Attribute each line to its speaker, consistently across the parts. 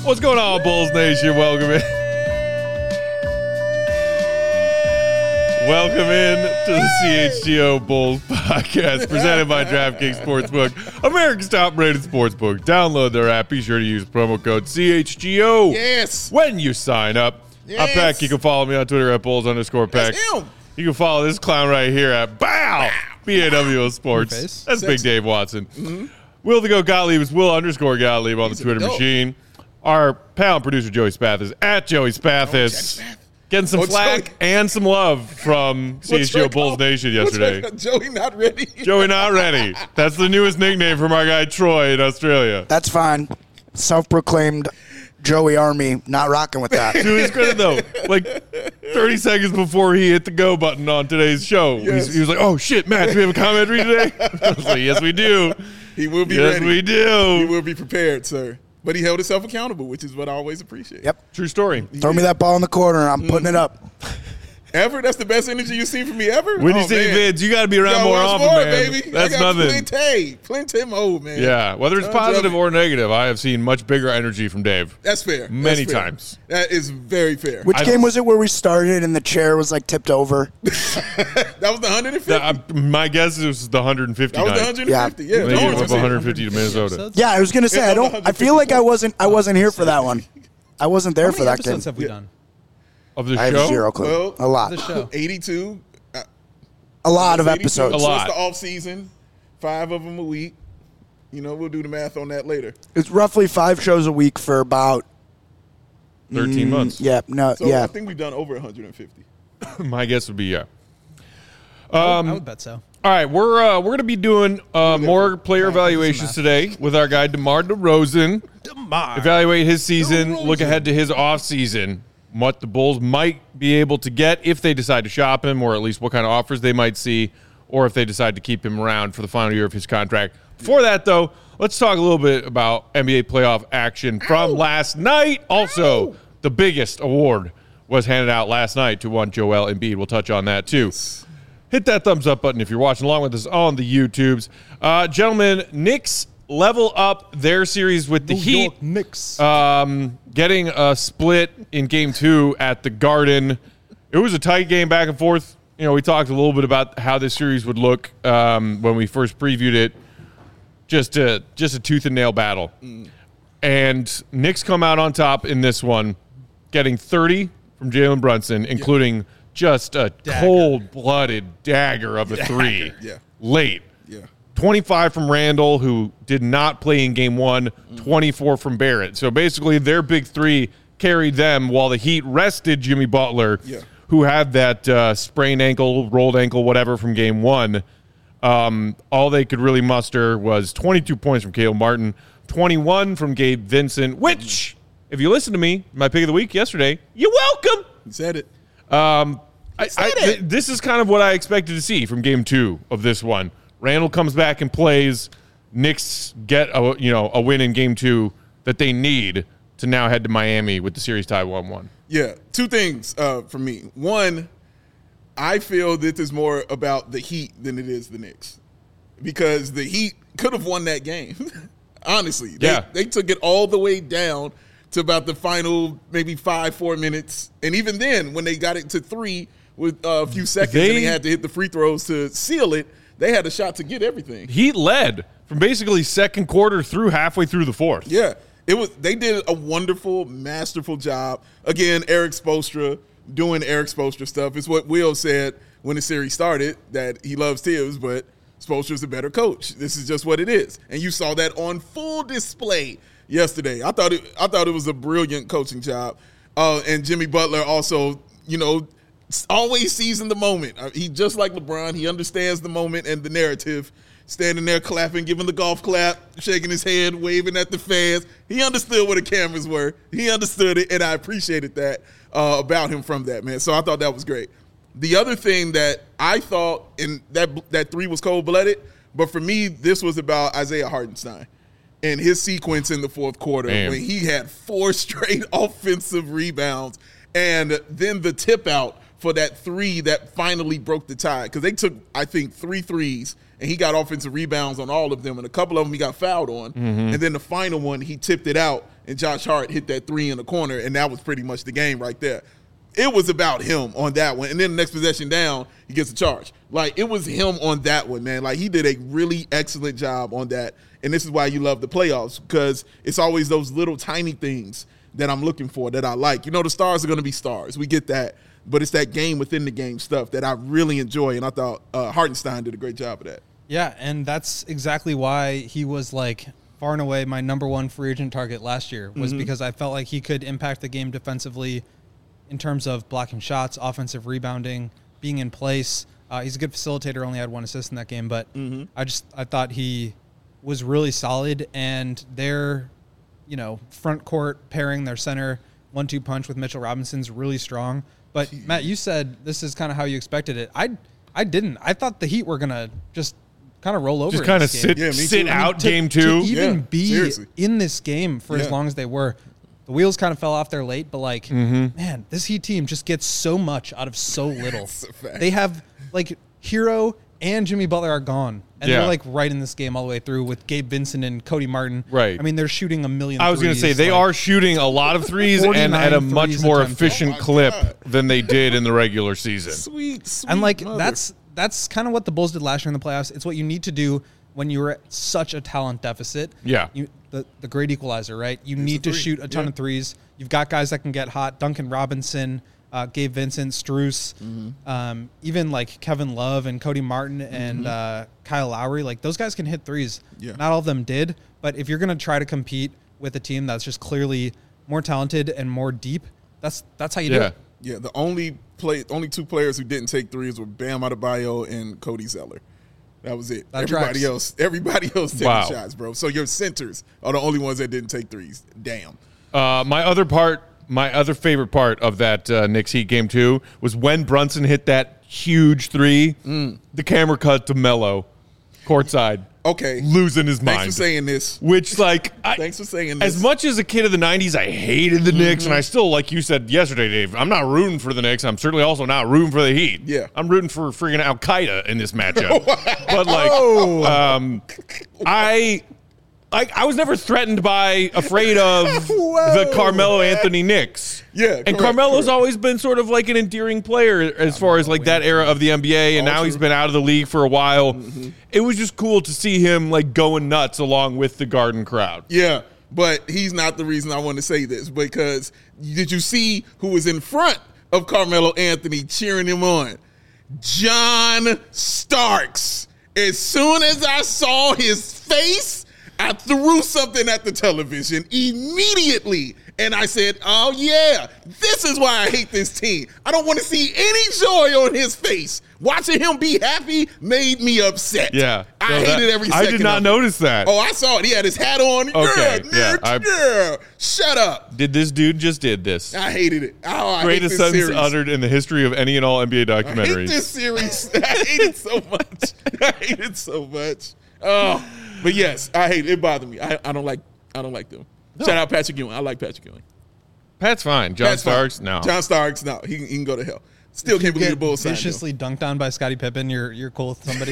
Speaker 1: What's going on, Bulls Nation? Welcome in. Welcome in to the CHGO Bulls podcast presented by DraftKings Sportsbook, America's top-rated sportsbook. Download their app. Be sure to use promo code CHGO.
Speaker 2: Yes.
Speaker 1: When you sign up.
Speaker 2: Yes.
Speaker 1: I'm Peck. You can follow me on Twitter at Bulls_Peck.
Speaker 2: That's him.
Speaker 1: You can follow this clown right here at BAWO Sports. That's Big Dave Watson.
Speaker 2: Mm-hmm.
Speaker 1: Will the Go Gottlieb is Will_Gottlieb on the Twitter machine. Our pal and producer Joey Spath is at Joey Spathis. Getting some flack and some love from CHGO Bulls Nation yesterday.
Speaker 2: Joey not ready.
Speaker 1: Joey not ready. That's the newest nickname from our guy Troy in Australia.
Speaker 3: That's fine. Self-proclaimed Joey Army, not rocking with that.
Speaker 1: To his credit, though, like 30 seconds before he hit the go button on today's show,
Speaker 2: Yes.
Speaker 1: he was like, "Oh shit, Matt, do we have a commentary today?" I was like, "Yes, we do.
Speaker 2: He will be
Speaker 1: Yes,
Speaker 2: ready.
Speaker 1: we do.
Speaker 2: He will be prepared, sir. But he held himself accountable, which is what I always appreciate.
Speaker 3: Yep.
Speaker 1: True story.
Speaker 3: Throw me that ball in the corner, I'm putting it up.
Speaker 2: Ever? That's the best energy you've seen from me ever?
Speaker 1: When you say vids, you got to be around
Speaker 2: Yo,
Speaker 1: more
Speaker 2: watch
Speaker 1: often,
Speaker 2: more,
Speaker 1: man.
Speaker 2: baby.
Speaker 1: That's
Speaker 2: I got
Speaker 1: nothing.
Speaker 2: Plenty mode, man.
Speaker 1: Yeah, whether it's
Speaker 2: Don't
Speaker 1: positive
Speaker 2: jump
Speaker 1: or negative, I have seen much bigger energy from Dave.
Speaker 2: That's fair.
Speaker 1: Many
Speaker 2: That's fair.
Speaker 1: times.
Speaker 2: That is very fair.
Speaker 3: Which game was it where we started and the chair was like tipped over?
Speaker 2: That was the 150?
Speaker 1: My guess is the 150
Speaker 2: That was the
Speaker 1: night.
Speaker 2: 150. Yeah.
Speaker 1: They gave up
Speaker 2: 100%.
Speaker 1: 150 to Minnesota.
Speaker 3: Yeah, I was gonna say I feel like I wasn't here for that one. I wasn't there for
Speaker 4: How many
Speaker 3: that game.
Speaker 4: episodes have we done?
Speaker 1: Of the
Speaker 3: I have
Speaker 1: show?
Speaker 3: zero clue.
Speaker 2: Well,
Speaker 3: a lot.
Speaker 4: The show.
Speaker 2: 82.
Speaker 3: A lot of
Speaker 2: 82.
Speaker 3: episodes.
Speaker 1: A
Speaker 2: So
Speaker 1: lot.
Speaker 2: it's the off season. 5 of them a week. You know, we'll do the math on that later.
Speaker 3: It's roughly 5 shows a week for about
Speaker 1: 13 months.
Speaker 3: yeah, no,
Speaker 2: So
Speaker 3: yeah.
Speaker 2: I think we've done over 150.
Speaker 1: My guess would be yeah.
Speaker 4: I would bet so.
Speaker 1: All right, we're going to be doing more player evaluations today with our guy DeMar DeRozan. Evaluate his season, look ahead to his off season, what the Bulls might be able to get if they decide to shop him, or at least what kind of offers they might see, or if they decide to keep him around for the final year of his contract. Before that, though, let's talk a little bit about NBA playoff action from last night. Also, the biggest award was handed out last night to one Joel Embiid. We'll touch on that, too. Hit that thumbs up button if you're watching along with us on the YouTubes. Gentlemen, Knicks level up their series with the Heat.
Speaker 4: Knicks.
Speaker 1: Getting a split in Game 2 at the Garden. It was a tight game back and forth. You know, we talked a little bit about how this series would look when we first previewed it. Just a tooth and nail battle. And Knicks come out on top in this one, getting 30 from Jalen Brunson, including just a cold-blooded dagger of a three late.
Speaker 2: Yeah.
Speaker 1: 25 from Randall, who did not play in Game 1, 24 from Barrett. So basically their big three carried them while the Heat rested Jimmy Butler, who had that sprained ankle, rolled ankle, whatever from Game 1. All they could really muster was 22 points from Caleb Martin, 21 from Gabe Vincent, which, if you listen to me, my pick of the week yesterday, you're welcome.
Speaker 2: You said it.
Speaker 1: This is kind of what I expected to see from Game 2 of this one. Randall comes back and plays. Knicks get a win in Game 2 that they need to now head to Miami with the series tie 1-1.
Speaker 2: Yeah. 2 things for me. One, I feel this is more about the Heat than it is the Knicks, because the Heat could have won that game. Honestly, they took it all the way down to about the final maybe 4 minutes, and even then, when they got it to 3 with a few seconds, and they had to hit the free throws to seal it, they had a shot to get everything.
Speaker 1: Heat led from basically second quarter through halfway through the fourth.
Speaker 2: Yeah, they did a wonderful, masterful job. Again, Eric Spoelstra doing Eric Spoelstra stuff. It's what Will said when the series started, that he loves Tibbs, but Spoelstra's a better coach. This is just what it is. And you saw that on full display yesterday. I thought it was a brilliant coaching job. And Jimmy Butler also, always seizing the moment. He just like LeBron. He understands the moment and the narrative. Standing there clapping, giving the golf clap, shaking his head, waving at the fans. He understood what the cameras were. He understood it, and I appreciated that about him from that, man. So I thought that was great. The other thing that I thought, and that 3 was cold-blooded, but for me, this was about Isaiah Hartenstein and his sequence in the fourth quarter when he had 4 straight offensive rebounds, and then the tip out for that 3 that finally broke the tie, because they took, I think, 3 threes, and he got offensive rebounds on all of them, and a couple of them he got fouled on. And then the final one, he tipped it out and Josh Hart hit that 3 in the corner, and that was pretty much the game right there. It was about him on that one. And then the next possession down, he gets a charge. Like, it was him on that one, man. Like, he did a really excellent job on that. And this is why you love the playoffs, because it's always those little tiny things that I'm looking for that I like. You know, the stars are going to be stars. We get that. But it's that game within the game stuff that I really enjoy. And I thought Hartenstein did a great job of that.
Speaker 4: Yeah, and that's exactly why he was, like, far and away my number one free agent target last year, was because I felt like he could impact the game defensively in terms of blocking shots, offensive rebounding, being in place. He's a good facilitator, only had 1 assist in that game, but I thought he was really solid, and their, front court pairing, their center 1-2 punch with Mitchell Robinson's really strong. But Matt, you said this is kind of how you expected it. I didn't. I thought the Heat were gonna just kind of roll over.
Speaker 1: Just kind of sit out game 2.
Speaker 4: To even be in this game for as long as they were. The wheels kind of fell off there late, but man, this Heat team just gets so much out of so little. They have Hero and Jimmy Butler are gone, and they're right in this game all the way through with Gabe Vincent and Cody Martin.
Speaker 1: Right.
Speaker 4: I mean, they're shooting a million.
Speaker 1: I was going to say they are shooting a lot of threes and at a much more efficient clip than they did in the regular season.
Speaker 2: Sweet.
Speaker 4: And that's kind of what the Bulls did last year in the playoffs. It's what you need to do when you're at such a talent deficit.
Speaker 1: Yeah.
Speaker 4: The great equalizer, right? You need to shoot a ton of threes. You've got guys that can get hot. Duncan Robinson, Gabe Vincent, Strus, even Kevin Love and Cody Martin and Kyle Lowry. Those guys can hit threes. Yeah. Not all of them did, but if you're going to try to compete with a team that's just clearly more talented and more deep, that's how you do it.
Speaker 2: Yeah, the only 2 players who didn't take threes were Bam Adebayo and Cody Zeller. That was it. Everybody else taking shots, bro. So your centers are the only ones that didn't take threes. Damn.
Speaker 1: My other favorite part of that Knicks Heat game 2 was when Brunson hit that huge 3. The camera cut to Melo, courtside.
Speaker 2: Okay.
Speaker 1: Losing his mind.
Speaker 2: Thanks for saying this.
Speaker 1: Which,
Speaker 2: thanks for saying this.
Speaker 1: As much as a kid of the 90s, I hated the Knicks, and I still, like you said yesterday, Dave, I'm not rooting for the Knicks. I'm certainly also not rooting for the Heat.
Speaker 2: Yeah.
Speaker 1: I'm rooting for friggin' Al-Qaeda in this matchup. But, I was never threatened by, afraid of the Carmelo Anthony Knicks.
Speaker 2: Yeah,
Speaker 1: and Carmelo's always been sort of like an endearing player as far as that era of the NBA, and now he's been out of the league for a while. It was just cool to see him going nuts along with the Garden crowd.
Speaker 2: Yeah, but he's not the reason I want to say this, because did you see who was in front of Carmelo Anthony cheering him on? John Starks. As soon as I saw his face, I threw something at the television immediately, and I said, oh, yeah, this is why I hate this team. I don't want to see any joy on his face. Watching him be happy made me upset.
Speaker 1: Yeah.
Speaker 2: I hated every second
Speaker 1: I did not notice that.
Speaker 2: Oh, I saw it. He had his hat on.
Speaker 1: Okay.
Speaker 2: Yeah. Shut up.
Speaker 1: Did this dude just did this?
Speaker 2: I hated it.
Speaker 1: Greatest sentence uttered in the history of any and all NBA documentaries.
Speaker 2: I hate this series. I hate it so much. I hate it so much. Oh. But yes, I hate it. It bothered me. I don't like them. No. Shout out Patrick Ewing. I like Patrick Ewing.
Speaker 1: Pat's fine. John Starks, no.
Speaker 2: John Starks, no. He can go to hell. Still can't believe the Bulls signed him.
Speaker 4: Viciously dunked on by Scottie Pippen. You're cool with somebody.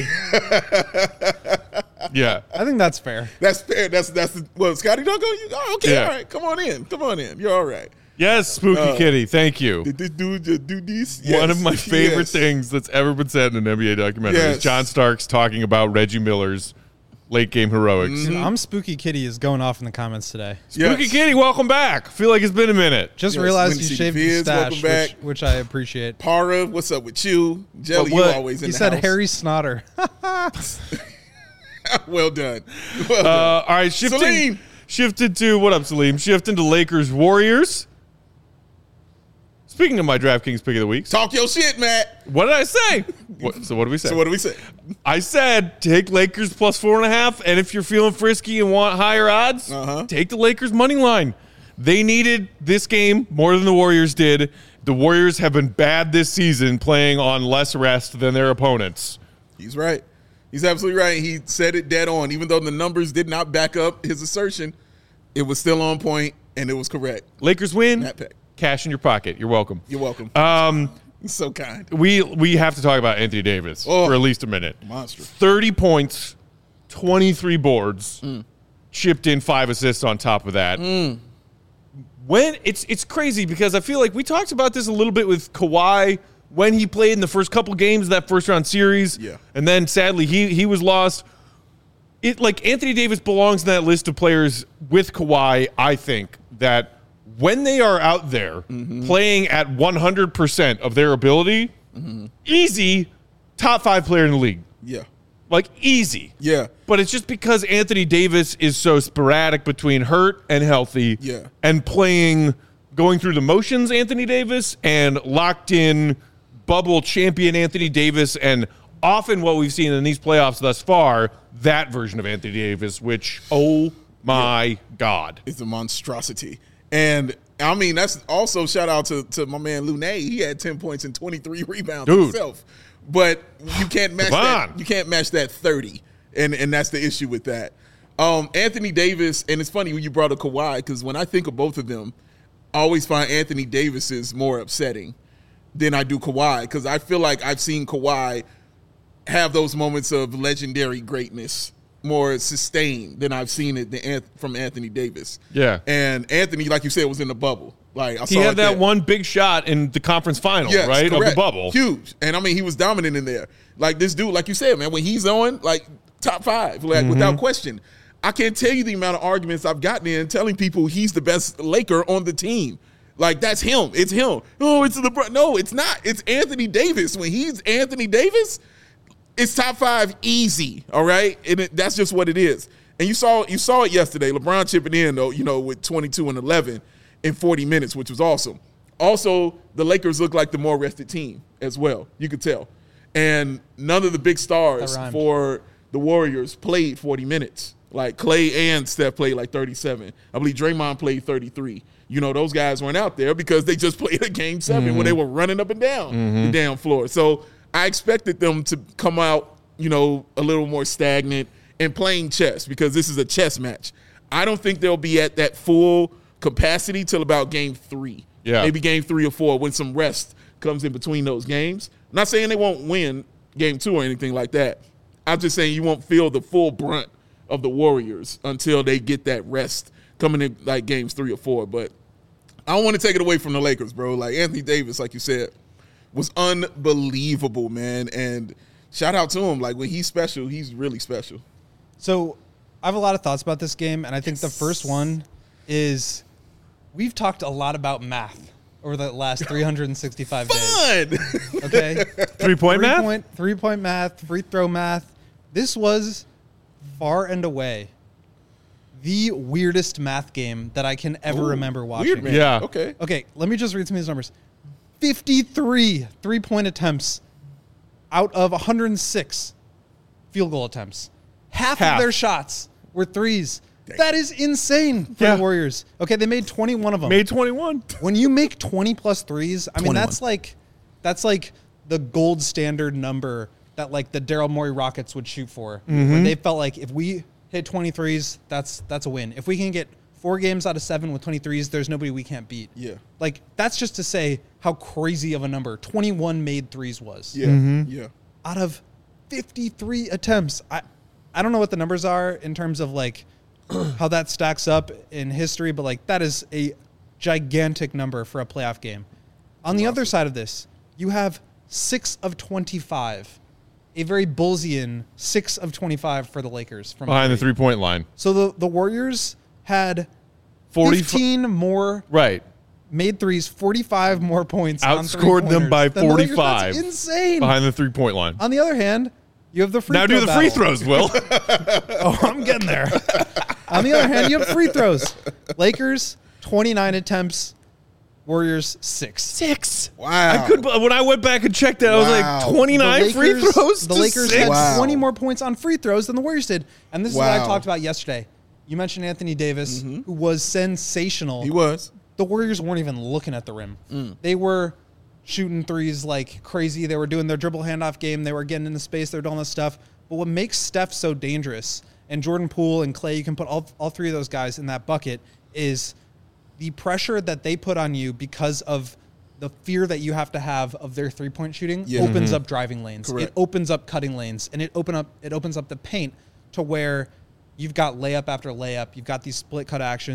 Speaker 1: Yeah,
Speaker 4: I think that's fair.
Speaker 2: That's fair. That's Scottie dunk on you. Oh, okay, all right. Come on in. You're all right.
Speaker 1: Yes, Spooky Kitty. Thank you.
Speaker 2: Did this dude just do this? Yes.
Speaker 1: One of my favorite things that's ever been said in an NBA documentary is John Starks talking about Reggie Miller's late game heroics.
Speaker 4: I'm Spooky Kitty is going off in the comments today.
Speaker 1: Spooky Kitty, welcome back. Feel like it's been a minute.
Speaker 4: Just realized you shaved your stash, which I appreciate.
Speaker 2: Para, what's up with you? Jelly, you always in the house.
Speaker 4: He said Harry Snotter.
Speaker 2: Well done.
Speaker 1: All right, shifted to, what up, Salim? Shifting to Lakers Warriors. Speaking of my DraftKings pick of the week.
Speaker 2: Talk your shit, Matt.
Speaker 1: What did I say? So what do we say? I said take Lakers plus 4.5, and if you're feeling frisky and want higher odds, take the Lakers money line. They needed this game more than the Warriors did. The Warriors have been bad this season, playing on less rest than their opponents.
Speaker 2: He's right. He's absolutely right. He said it dead on. Even though the numbers did not back up his assertion, it was still on point, and it was correct.
Speaker 1: Lakers win.
Speaker 2: Matt Peck.
Speaker 1: Cash in your pocket. You're welcome.
Speaker 2: You're welcome. You're so kind.
Speaker 1: We have to talk about Anthony Davis for at least a minute.
Speaker 2: Monster.
Speaker 1: 30 points, 23 boards, chipped in 5 assists on top of that. when it's crazy because I feel like we talked about this a little bit with Kawhi when he played in the first couple games of that first round series.
Speaker 2: Yeah.
Speaker 1: And then sadly he was lost. Anthony Davis belongs in that list of players with Kawhi, I think, that when they are out there playing at 100% of their ability, easy top 5 player in the league.
Speaker 2: Yeah.
Speaker 1: Like, easy.
Speaker 2: Yeah.
Speaker 1: But it's just because Anthony Davis is so sporadic between hurt and healthy.
Speaker 2: Yeah.
Speaker 1: And going through the motions, Anthony Davis, and locked in bubble champion Anthony Davis, and often what we've seen in these playoffs thus far, that version of Anthony Davis, which, oh my God.
Speaker 2: It's a monstrosity. And I mean, that's also shout out to my man Luné. He had 10 points and 23 rebounds himself. But you can't match that. You can't match that 30. And that's the issue with that. Anthony Davis, and it's funny when you brought up Kawhi, because when I think of both of them, I always find Anthony Davis is more upsetting than I do Kawhi, because I feel like I've seen Kawhi have those moments of legendary greatness more sustained than I've seen it from Anthony Davis.
Speaker 1: Yeah.
Speaker 2: And Anthony, like you said, was in the bubble. Like
Speaker 1: he had that one big shot in the conference final, right? Correct. Of the bubble.
Speaker 2: Huge. And I mean, he was dominant in there. Like this dude, like you said, man, when he's on, like top 5, like without question. I can't tell you the amount of arguments I've gotten in telling people he's the best Laker on the team. Like, that's him. It's him. Oh, it's LeBron. No, it's not. It's Anthony Davis. When he's Anthony Davis, it's top 5 easy, all right? And that's just what it is. And you saw it yesterday. LeBron chipping in, though, with 22 and 11 in 40 minutes, which was awesome. Also, the Lakers look like the more rested team as well. You could tell. And none of the big stars for the Warriors played 40 minutes. Like, Clay and Steph played like 37. I believe Draymond played 33. Those guys weren't out there because they just played a Game 7 when they were running up and down the damn floor. So I expected them to come out, a little more stagnant and playing chess, because this is a chess match. I don't think they'll be at that full capacity till about Game 3. Yeah. Maybe Game 3 or 4 when some rest comes in between those games. I'm not saying they won't win Game 2 or anything like that. I'm just saying you won't feel the full brunt of the Warriors until they get that rest coming in like Games 3 or 4. But I don't want to take it away from the Lakers, bro. Like, Anthony Davis, like you said, was unbelievable, man. And shout out to him. Like, when he's special, he's really special.
Speaker 4: So I have a lot of thoughts about this game, and I think the first one is we've talked a lot about math over the last 365 days.
Speaker 2: Fun!
Speaker 4: Okay?
Speaker 1: 3-point math?
Speaker 4: 3-point math, free throw math. This was far and away the weirdest math game that I can ever remember watching.
Speaker 2: Weird, man.
Speaker 1: Yeah.
Speaker 4: Okay, let me just read some of these numbers. 53 3-point attempts out of 106 field goal attempts. Half of their shots were threes. That is insane for the Warriors. Okay, they made 21 of them.
Speaker 1: Made 21.
Speaker 4: When you make 20 plus threes, I mean, that's like the gold standard number that like the Daryl Morey Rockets would shoot for. When they felt like if we hit 23s, that's a win. If we can get 4 games out of 7 with 23s, there's nobody we can't beat. Yeah. Like, that's just to say how crazy of a number 21 made threes was.
Speaker 2: Yeah. Yeah.
Speaker 4: Out of 53 attempts. I don't know what the numbers are in terms of like how that stacks up in history, but like that is a gigantic number for a playoff game. On the other side of this, you have 6 of 25. A very Bullsian 6 of 25 for the Lakers from
Speaker 1: behind the 3-point line.
Speaker 4: So the Warriors had 15 more made threes, 45 more points.
Speaker 1: Outscored them by 45.
Speaker 4: That's insane.
Speaker 1: Behind the 3-point line.
Speaker 4: On the other hand, you have the free throw
Speaker 1: Now do the free throws, Will.
Speaker 4: Oh, I'm getting there. On the other hand, you have free throws. Lakers, 29 attempts. Warriors, 6.
Speaker 2: Wow.
Speaker 1: When I went back and checked that, I was like, 29 free throws?
Speaker 4: The Lakers had 20 more points on free throws than the Warriors did. And this is what I talked about yesterday. You mentioned Anthony Davis, who was sensational.
Speaker 2: He was.
Speaker 4: The Warriors weren't even looking at the rim. They were shooting threes like crazy. They were doing their dribble handoff game. They were getting into space. They were doing all this stuff. But what makes Steph so dangerous, and Jordan Poole and Clay, you can put all 3 of those guys in that bucket, is the pressure that they put on you because of the fear that you have to have of their 3-point shooting opens up driving lanes. Correct. It opens up cutting lanes, and it opens up the paint to where you've got layup after layup. You've got these split cut actions.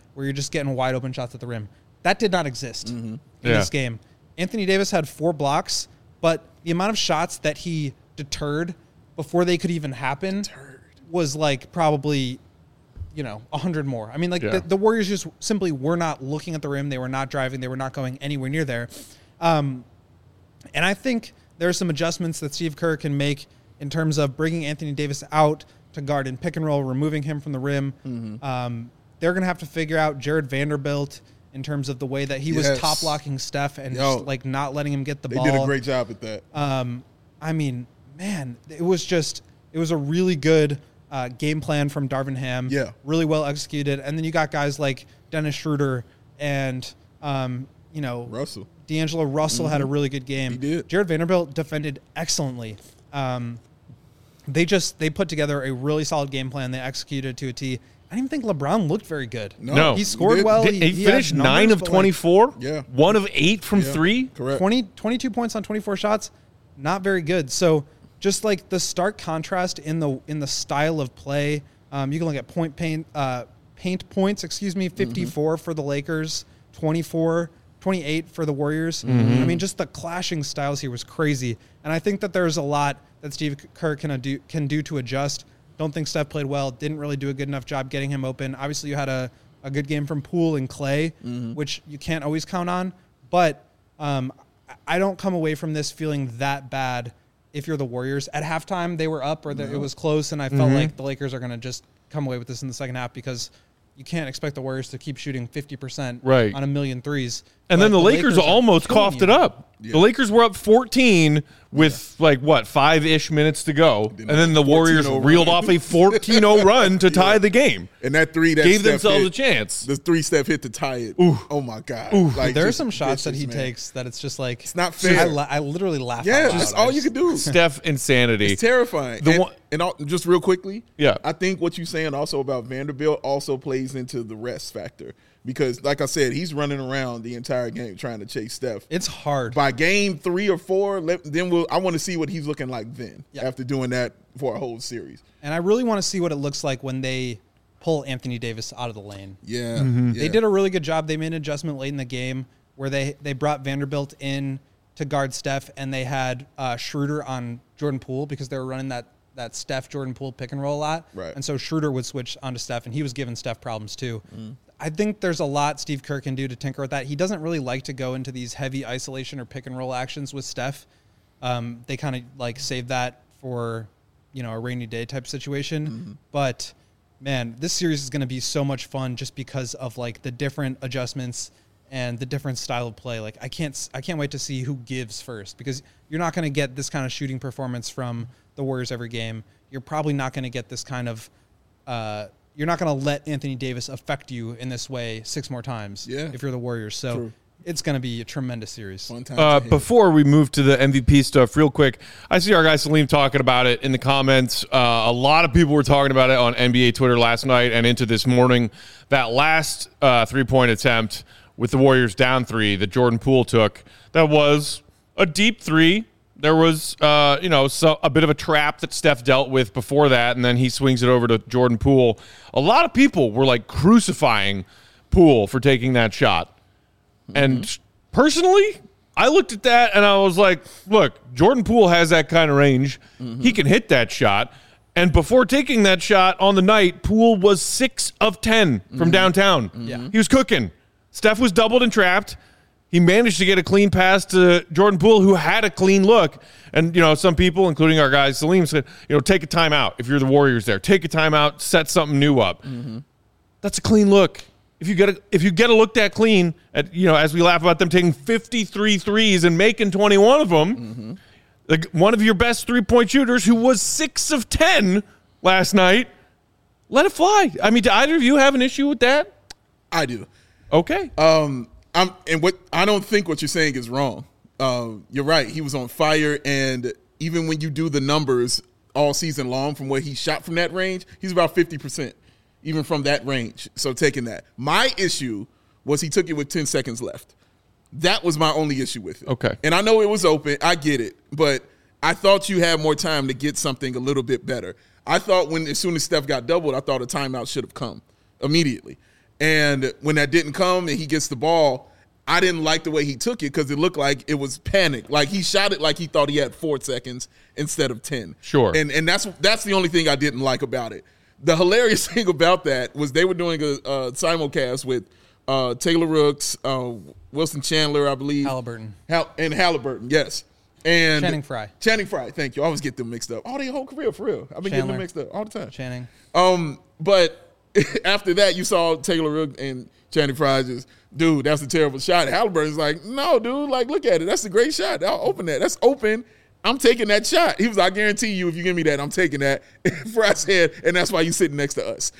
Speaker 4: where you're just getting wide open shots at the rim. That did not exist in this game. Anthony Davis had 4 blocks, but the amount of shots that he deterred before they could even happen was like probably, 100 more. I mean, like the Warriors just simply were not looking at the rim. They were not driving. They were not going anywhere near there. And I think there are some adjustments that Steve Kerr can make in terms of bringing Anthony Davis out to guard in pick and roll, removing him from the rim. They're going to have to figure out Jared Vanderbilt in terms of the way that he was top blocking Steph and just like not letting him get the ball.
Speaker 2: They did a great job at that.
Speaker 4: I mean, man, it was a really good game plan from Darvin Ham.
Speaker 2: Yeah.
Speaker 4: Really well executed. And then you got guys like Dennis Schroeder and,
Speaker 2: Russell.
Speaker 4: D'Angelo Russell had a really good game.
Speaker 2: He did.
Speaker 4: Jared Vanderbilt defended excellently. They put together a really solid game plan. They executed to a T. I didn't even think LeBron looked very good.
Speaker 1: No.
Speaker 4: He scored well.
Speaker 1: He finished 9 of 24. 1 of 8 from 3.
Speaker 2: Correct.
Speaker 4: 22 points on 24 shots. Not very good. So just like the stark contrast in the style of play, you can look at paint points, 54 for the Lakers, 28 for the Warriors. I mean, just the clashing styles here was crazy. And I think that there's a lot that Steve Kerr can do to adjust. Don't think Steph played well. Didn't really do a good enough job getting him open. Obviously, you had a good game from Poole and Clay, which you can't always count on. But I don't come away from this feeling that bad if you're the Warriors. At halftime, they were up or it was close, and I felt like the Lakers are going to just come away with this in the second half because you can't expect the Warriors to keep shooting 50% on a million threes.
Speaker 1: And then the Lakers almost coughed it up. Yeah. The Lakers were up 14 with 5-ish minutes to go. And then the Warriors reeled off a 14-0 run to tie the game.
Speaker 2: And that three that
Speaker 1: gave
Speaker 2: Steph
Speaker 1: themselves
Speaker 2: hit,
Speaker 1: a chance.
Speaker 2: The 3 Steph hit to tie it.
Speaker 1: Ooh.
Speaker 2: Oh my God.
Speaker 4: Like, there are some shots that he takes that it's just like
Speaker 2: it's not fair.
Speaker 4: I literally laugh.
Speaker 2: Yeah, that's all you can do.
Speaker 1: Steph insanity.
Speaker 2: It's terrifying. Just real quickly, I think what you're saying also about Vanderbilt also plays into the rest factor. Because, like I said, he's running around the entire game trying to chase Steph.
Speaker 4: It's hard.
Speaker 2: By game 3 or 4, I want to see what he's looking like then after doing that for a whole series.
Speaker 4: And I really want to see what it looks like when they pull Anthony Davis out of the lane.
Speaker 2: Yeah.
Speaker 4: They did a really good job. They made an adjustment late in the game where they brought Vanderbilt in to guard Steph, and they had Schroeder on Jordan Poole because they were running that Steph-Jordan Poole pick and roll a lot.
Speaker 2: Right.
Speaker 4: And so Schroeder would switch onto Steph, and he was giving Steph problems too. I think there's a lot Steve Kerr can do to tinker with that. He doesn't really like to go into these heavy isolation or pick and roll actions with Steph. They kind of like save that for, a rainy day type situation. But man, this series is going to be so much fun just because of like the different adjustments and the different style of play. Like I can't wait to see who gives first, because you're not going to get this kind of shooting performance from the Warriors every game. You're probably not going to get this kind of, you're not going to let Anthony Davis affect you in this way 6 more times if you're the Warriors. So it's going to be a tremendous series.
Speaker 1: Before we move to the MVP stuff real quick, I see our guy Salim talking about it in the comments. A lot of people were talking about it on NBA Twitter last night and into this morning. That last 3-point attempt with the Warriors down 3 that Jordan Poole took, that was a deep 3. There was, a bit of a trap that Steph dealt with before that, and then he swings it over to Jordan Poole. A lot of people were, crucifying Poole for taking that shot. And personally, I looked at that, and I was like, look, Jordan Poole has that kind of range. He can hit that shot. And before taking that shot on the night, Poole was 6 of 10 from downtown. He was cooking. Steph was doubled and trapped. He managed to get a clean pass to Jordan Poole, who had a clean look. And, some people, including our guy Salim, said, take a timeout if you're the Warriors there. Take a timeout, set something new up. That's a clean look. If you get a look that clean, as we laugh about them taking 53 threes and making 21 of them, like one of your best 3-point shooters who was 6 of 10 last night, let it fly. I mean, do either of you have an issue with that?
Speaker 2: I do.
Speaker 1: Okay.
Speaker 2: I don't think what you're saying is wrong. You're right. He was on fire, and even when you do the numbers all season long from where he shot from that range, he's about 50%, even from that range. So taking that. My issue was he took it with 10 seconds left. That was my only issue with it.
Speaker 1: Okay.
Speaker 2: And I know it was open. I get it. But I thought you had more time to get something a little bit better. I thought as soon as Steph got doubled, I thought a timeout should have come immediately. And when that didn't come and he gets the ball, I didn't like the way he took it because it looked like it was panic. Like he shot it like he thought he had 4 seconds instead of 10.
Speaker 1: Sure.
Speaker 2: And that's the only thing I didn't like about it. The hilarious thing about that was they were doing a simulcast with Taylor Rooks, Wilson Chandler, I believe.
Speaker 4: Halliburton.
Speaker 2: And Halliburton, yes. And
Speaker 4: Channing Frye.
Speaker 2: Channing Frye, thank you. I always get them mixed up. Their whole career, for real. I've been getting them mixed up all the time.
Speaker 4: Channing.
Speaker 2: But after that, you saw Taylor Rooks and Channing Frye just, dude, that's a terrible shot. Halliburton's like, no, dude, like, look at it. That's a great shot. I'll open that. That's open. I'm taking that shot. He was like, I guarantee you, if you give me that, I'm taking that. Frye said, and that's why you sitting next to us.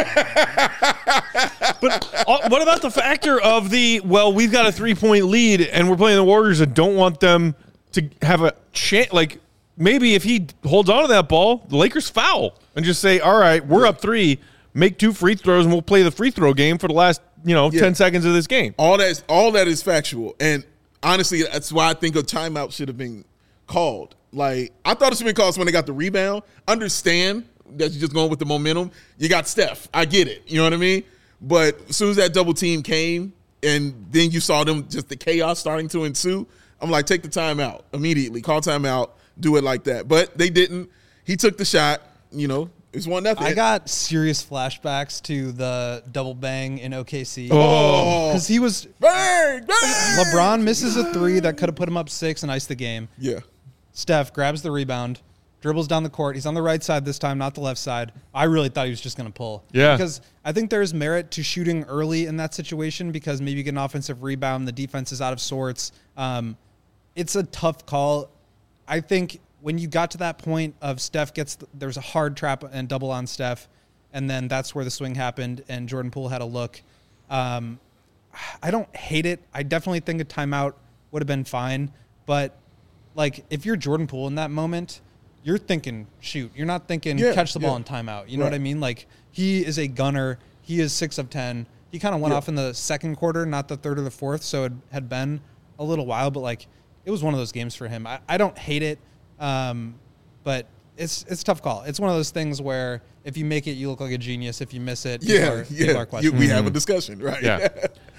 Speaker 1: But what about the factor of we've got a 3-point lead and we're playing the Warriors and don't want them to have a chance? Like, maybe if he holds on to that ball, the Lakers foul and just say, all right, we're up 3, make 2 free throws, and we'll play the free throw game for the last 10 seconds of this game.
Speaker 2: All that is factual. And honestly, that's why I think a timeout should have been called. Like, I thought it should have been called when they got the rebound. Understand that you're just going with the momentum. You got Steph. I get it. You know what I mean? But as soon as that double team came and then you saw them, just the chaos starting to ensue, I'm like, take the timeout immediately. Call timeout. Do it like that. But they didn't. He took the shot. It's 1-0.
Speaker 4: I got serious flashbacks to the double bang in OKC.
Speaker 1: Oh.
Speaker 4: Because he was
Speaker 2: bang.
Speaker 4: LeBron misses a 3 that could have put him up 6 and iced the game.
Speaker 2: Yeah.
Speaker 4: Steph grabs the rebound, dribbles down the court. He's on the right side this time, not the left side. I really thought he was just going to pull.
Speaker 1: Yeah.
Speaker 4: Because I think there's merit to shooting early in that situation because maybe you get an offensive rebound, the defense is out of sorts. It's a tough call. I think when you got to that point of Steph there's a hard trap and double on Steph, and then that's where the swing happened and Jordan Poole had a look. I don't hate it. I definitely think a timeout would have been fine, but like if you're Jordan Poole in that moment, you're thinking shoot. You're not thinking catch the ball in timeout. You know what I mean? Like he is a gunner. He is 6 of 10. He kind of went off in the second quarter, not the third or the fourth, so it had been a little while, but like it was one of those games for him. I don't hate it. But it's a tough call. It's one of those things where if you make it, you look like a genius. If you miss it, people are questioning.
Speaker 2: We have a discussion, right?
Speaker 1: Yeah.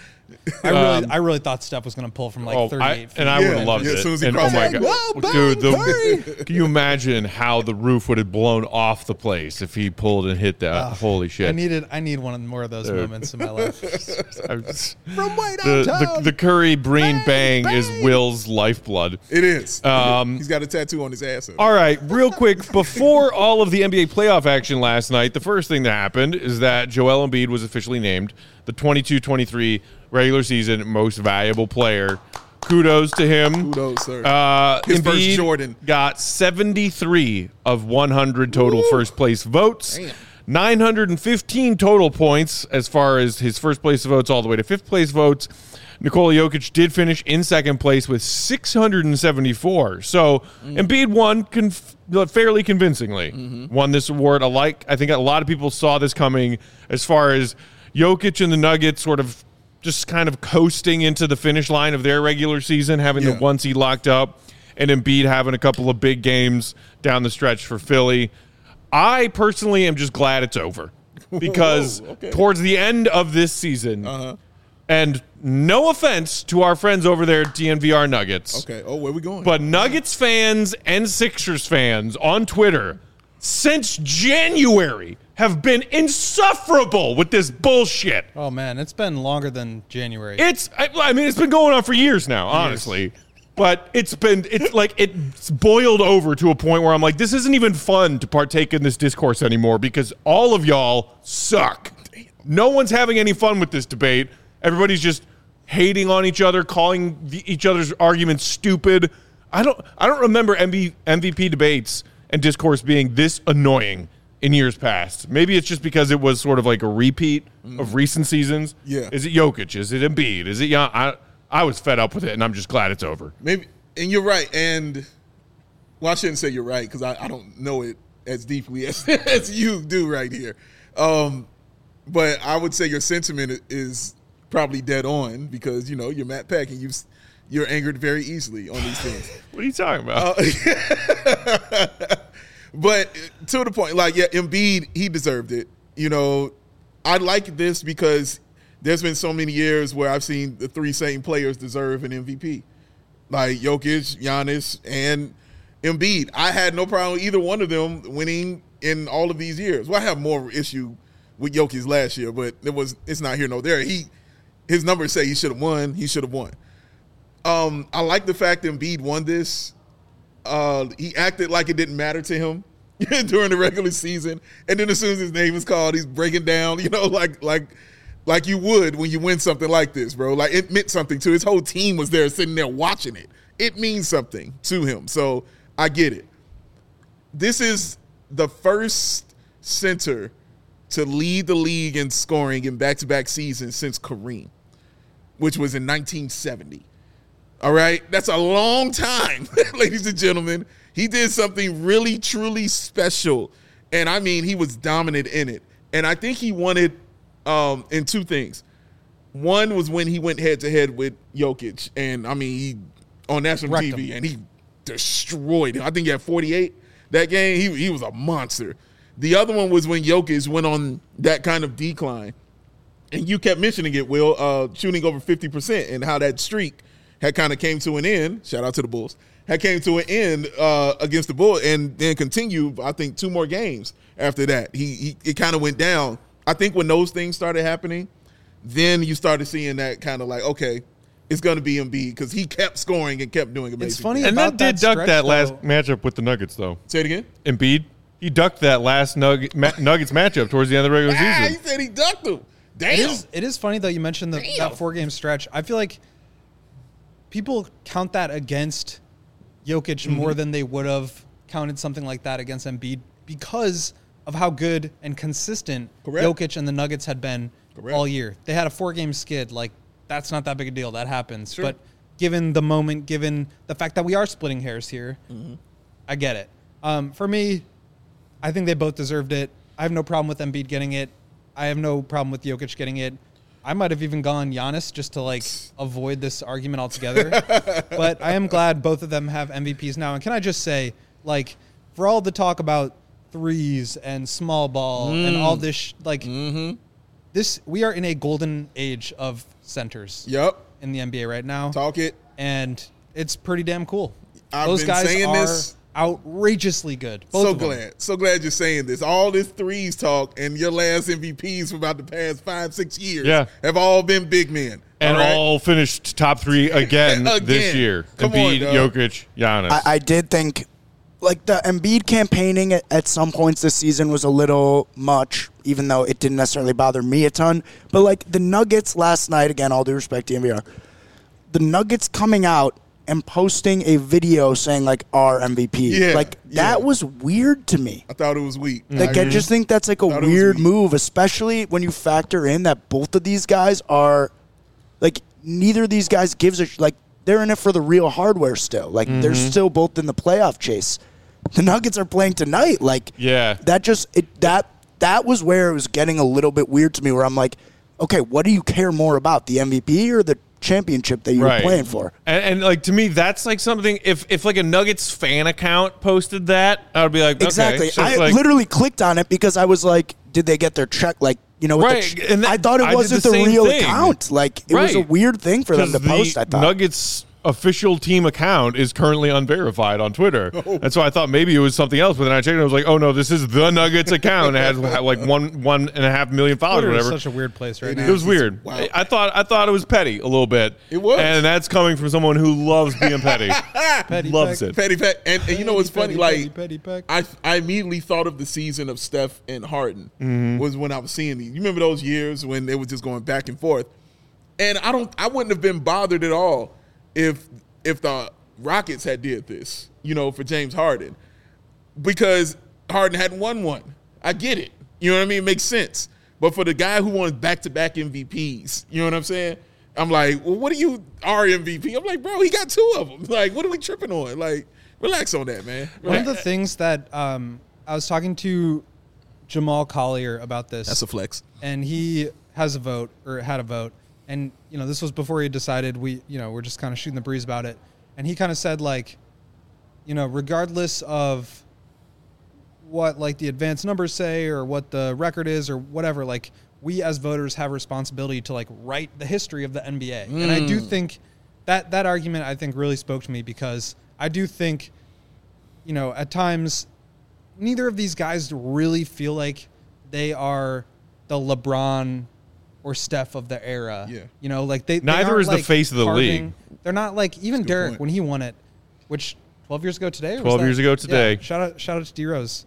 Speaker 4: I really thought Steph was going to pull from 38 feet.
Speaker 1: And I would have loved it.
Speaker 2: As soon as he
Speaker 1: and
Speaker 2: crossed
Speaker 1: my
Speaker 2: it,
Speaker 1: God. Dude, can you imagine how the roof would have blown off the place if he pulled and hit that? Holy shit.
Speaker 4: I need more of those moments in my life.
Speaker 3: From way downtown.
Speaker 1: The Curry Breen bang is Will's lifeblood.
Speaker 2: It is. He's got a tattoo on his ass.
Speaker 1: All right, real quick, before all of the NBA playoff action last night, the first thing that happened is that Joel Embiid was officially named the 22-23 regular season most valuable player. Kudos to him.
Speaker 2: Kudos, sir.
Speaker 1: His
Speaker 2: Embiid first Jordan.
Speaker 1: Got 73 of 100 total first place votes.
Speaker 2: Damn.
Speaker 1: 915 total points as far as his first place votes all the way to fifth place votes. Nikola Jokic did finish in second place with 674. So Embiid won fairly convincingly. Won this award. I think a lot of people saw this coming as far as Jokic and the Nuggets sort of just kind of coasting into the finish line of their regular season, having the 1 seed locked up, and Embiid having a couple of big games down the stretch for Philly. I personally am just glad it's over because towards the end of this season, and no offense to our friends over there at DNVR Nuggets.
Speaker 2: Okay. Oh, where we going?
Speaker 1: But Nuggets fans and Sixers fans on Twitter since January have been insufferable with this bullshit.
Speaker 4: Oh, man, it's been longer than January.
Speaker 1: It's been going on for years now, honestly. But it's boiled over to a point where I'm like, this isn't even fun to partake in this discourse anymore because all of y'all suck. No one's having any fun with this debate. Everybody's just hating on each other, calling each other's arguments stupid. I don't remember MVP debates and discourse being this annoying in years past. Maybe it's just because it was sort of like a repeat of recent seasons.
Speaker 2: Yeah.
Speaker 1: Is it Jokic? Is it Embiid? Is it Jan? I was fed up with it, and I'm just glad it's over.
Speaker 2: Maybe, and you're right. And I shouldn't say you're right because I don't know it as deeply as you do right here. But I would say your sentiment is probably dead on because you're Matt Peck and you're angered very easily on these things.
Speaker 1: What are you talking about?
Speaker 2: But to the point, Embiid, he deserved it. I like this because there's been so many years where I've seen the three same players deserve an MVP, like Jokic, Giannis, and Embiid. I had no problem with either one of them winning in all of these years. Well, I have more issue with Jokic last year, but it's not here nor there. His numbers say he should have won. He should have won. I like the fact that Embiid won this. He acted like it didn't matter to him during the regular season, and then as soon as his name is called, he's breaking down. Like you would when you win something like this, bro. Like it meant something to his whole team was there sitting there watching it. It means something to him. So I get it. This is the first center to lead the league in scoring in back-to-back seasons since Kareem, which was in 1970. All right? That's a long time, ladies and gentlemen. He did something really, truly special. And, I mean, he was dominant in it. And I think he won it in two things. One was when he went head-to-head with Jokic. And, I mean, he on national TV, and he destroyed him. I think he had 48 that game. He was a monster. The other one was when Jokic went on that kind of decline. And you kept mentioning it, Will, shooting over 50% and how that streak had kind of came to an end. Shout out to the Bulls. Had came to an end against the Bulls and then continued, I think, 2 more games after that. It kind of went down. I think when those things started happening, then you started seeing that kind of like, okay, it's going to be Embiid because he kept scoring and kept doing amazing.
Speaker 4: It's funny
Speaker 1: and
Speaker 4: about
Speaker 1: that did duck
Speaker 4: stretch,
Speaker 1: that last
Speaker 4: though.
Speaker 1: matchup with the Nuggets, though.
Speaker 2: Say it again.
Speaker 1: Embiid, he ducked that last Nuggets matchup towards the end of the regular season.
Speaker 2: He said he ducked him. Damn.
Speaker 4: It is funny, though, you mentioned that 4-game stretch. I feel like people count that against Jokic more than they would have counted something like that against Embiid because of how good and consistent Jokic and the Nuggets had been all year. They had a 4-game skid. Like, that's not that big a deal. That happens.
Speaker 2: Sure.
Speaker 4: But given the moment, given the fact that we are splitting hairs here, I get it. For me, I think they both deserved it. I have no problem with Embiid getting it. I have no problem with Jokic getting it. I might have even gone Giannis just to, like, avoid this argument altogether. But I am glad both of them have MVPs now. And can I just say, like, for all the talk about threes and small ball and all this, this, we are in a golden age of centers.
Speaker 2: Yep.
Speaker 4: In the NBA right now.
Speaker 2: Talk it.
Speaker 4: And it's pretty damn cool.
Speaker 2: Those guys
Speaker 4: are
Speaker 2: this.
Speaker 4: outrageously good. Both
Speaker 2: So glad you're saying this. All this threes talk and your last MVPs for about the past 5-6 years have all been big men.
Speaker 1: And all finished top 3 again this year.
Speaker 2: Come
Speaker 1: Embiid,
Speaker 2: on,
Speaker 1: Jokic, Giannis.
Speaker 3: I did think, like, the Embiid campaigning at some points this season was a little much, even though it didn't necessarily bother me a ton. But, like, the Nuggets last night, again, all due respect to NVR, the Nuggets coming out and posting a video saying, like, our MVP. That was weird to me.
Speaker 2: I thought it was weak.
Speaker 3: Like, I just think that's, like, a weird move, especially when you factor in that both of these guys are, like, neither of these guys gives a, like, they're in it for the real hardware still. Like, they're still both in the playoff chase. The Nuggets are playing tonight. Like, that just, that was where it was getting a little bit weird to me, where I'm like, okay, what do you care more about, the MVP or the championship that you were playing for?
Speaker 1: And like, to me, that's like something, if like a Nuggets fan account posted that, I would be like,
Speaker 3: exactly.
Speaker 1: Okay.
Speaker 3: I literally clicked on it because I was like, did they get their check? Like, you know,
Speaker 1: and
Speaker 3: I thought it wasn't the real account. Like, it was a weird thing for them to post, I thought.
Speaker 1: Nuggets official team account is currently unverified on Twitter. And so I thought maybe it was something else, but then I checked and I was like, oh no, this is the Nuggets account. It has like 1.5 million followers or whatever.
Speaker 4: It's such a weird place right now.
Speaker 1: It was weird.
Speaker 2: Wow.
Speaker 1: I thought it was petty a little bit.
Speaker 2: It was.
Speaker 1: And that's coming from someone who loves being petty. Loves it.
Speaker 2: Petty Peck. And you know what's funny? Like,
Speaker 4: Petty Peck.
Speaker 2: I immediately thought of the season of Steph and Harden was when I was seeing these. You remember those years when they were just going back and forth? And I wouldn't have been bothered at all if the Rockets had did this, you know, for James Harden, because Harden hadn't won one. I get it. You know what I mean? It makes sense. But for the guy who won back-to-back MVPs, you know what I'm saying? I'm like, well, what are you, our MVP? I'm like, bro, he got 2 of them. Like, what are we tripping on? Like, relax on that, man. Relax.
Speaker 4: One of the things that I was talking to Jamal Collier about this.
Speaker 2: That's a flex.
Speaker 4: And he has a vote, or had a vote. And, you know, this was before he decided we're just kind of shooting the breeze about it. And he kind of said, like, you know, regardless of what, like, the advanced numbers say or what the record is or whatever, like, we as voters have a responsibility to like write the history of the NBA. And I do think that argument, I think, really spoke to me, because I do think, you know, at times neither of these guys really feel like they are the LeBron or Steph of their era.
Speaker 2: Yeah.
Speaker 4: You know, like they
Speaker 1: Neither is the face of the league.
Speaker 4: They're not like, even Derek
Speaker 2: point.
Speaker 4: when he won it, which 12 years ago today.
Speaker 1: 12 years ago today.
Speaker 4: Yeah, shout out to D Rose.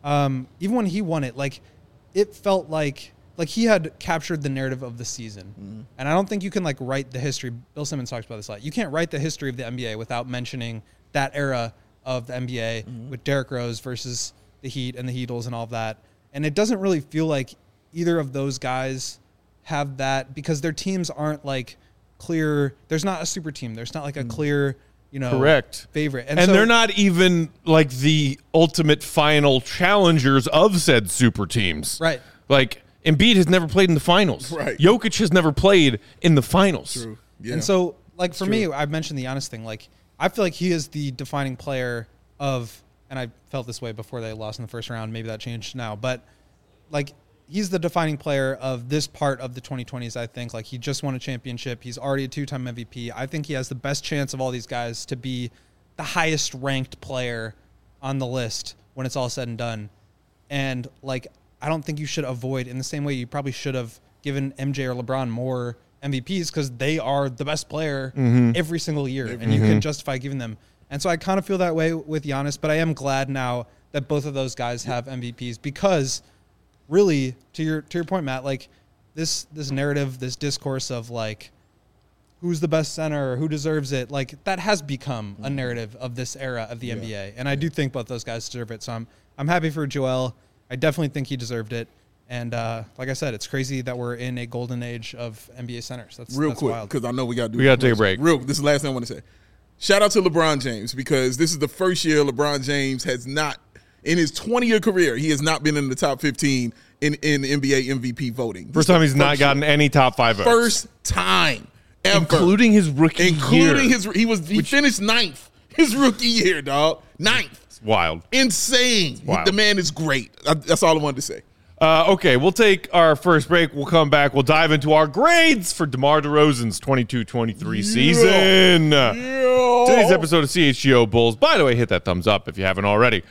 Speaker 4: Even when he won it, like it felt like he had captured the narrative of the season. And I don't think you can like write the history. Bill Simmons talks about this a lot. You can't write the history of the NBA without mentioning that era of the NBA with Derrick Rose versus the Heat and the Heatles and all of that. And it doesn't really feel like either of those guys have that, because their teams aren't like clear. There's not a super team. There's not like a clear, you know,
Speaker 1: Correct.
Speaker 4: favorite.
Speaker 1: And
Speaker 4: so,
Speaker 1: they're not even like the ultimate final challengers of said super teams.
Speaker 4: Right.
Speaker 1: Like Embiid has never played in the finals.
Speaker 2: Right.
Speaker 1: Jokic has never played in the finals.
Speaker 2: True. Yeah.
Speaker 4: And so, like, for me, I've mentioned the Giannis thing. Like, I feel like he is the defining player of, and I felt this way before they lost in the first round. Maybe that changed now. But, like, he's the defining player of this part of the 2020s, I think. Like, he just won a championship. He's already a 2-time MVP. I think he has the best chance of all these guys to be the highest ranked player on the list when it's all said and done. And, like, I don't think you should avoid, in the same way you probably should have given MJ or LeBron more MVPs, because they are the best player every single year, and you can justify giving them. And so I kind of feel that way with Giannis, but I am glad now that both of those guys have MVPs, because really, to your point, Matt, like this narrative, this discourse of like who's the best center, who deserves it, like that has become a narrative of this era of the NBA, and I do think both those guys deserve it. So I'm happy for Joel. I definitely think he deserved it. And like I said, it's crazy that we're in a golden age of NBA centers. That's
Speaker 2: quick,
Speaker 4: wild.
Speaker 2: because I know we got to
Speaker 1: take a break.
Speaker 2: This is the last thing I want to say. Shout out to LeBron James, because this is the first year LeBron James has not, in his 20-year career, he has not been in the top 15 in NBA MVP voting.
Speaker 1: First time he's not gotten any top 5 votes.
Speaker 2: First time ever.
Speaker 1: Including his rookie year.
Speaker 2: He finished 9th his rookie year, dog. 9th.
Speaker 1: It's wild.
Speaker 2: Insane.
Speaker 1: Wild.
Speaker 2: The man is great. That's all I wanted to say.
Speaker 1: Okay, we'll take our first break. We'll come back. We'll dive into our grades for DeMar DeRozan's 22-23 season. Today's episode of CHGO Bulls, by the way, hit that thumbs up if you haven't already,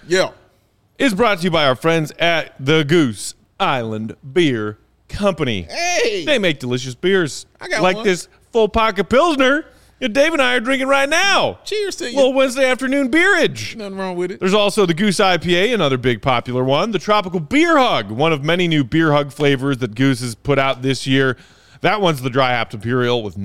Speaker 1: is brought to you by our friends at the Goose Island Beer Company.
Speaker 2: Hey!
Speaker 1: They make delicious beers.
Speaker 2: I got
Speaker 1: like
Speaker 2: one.
Speaker 1: this full pocket Pilsner that Dave and I are drinking right now.
Speaker 2: Cheers to you.
Speaker 1: Little Wednesday afternoon beerage.
Speaker 2: Nothing wrong with it.
Speaker 1: There's also the Goose IPA, another big popular one. The Tropical Beer Hug, one of many new beer hug flavors that Goose has put out this year. That one's the Dry Hopped Imperial with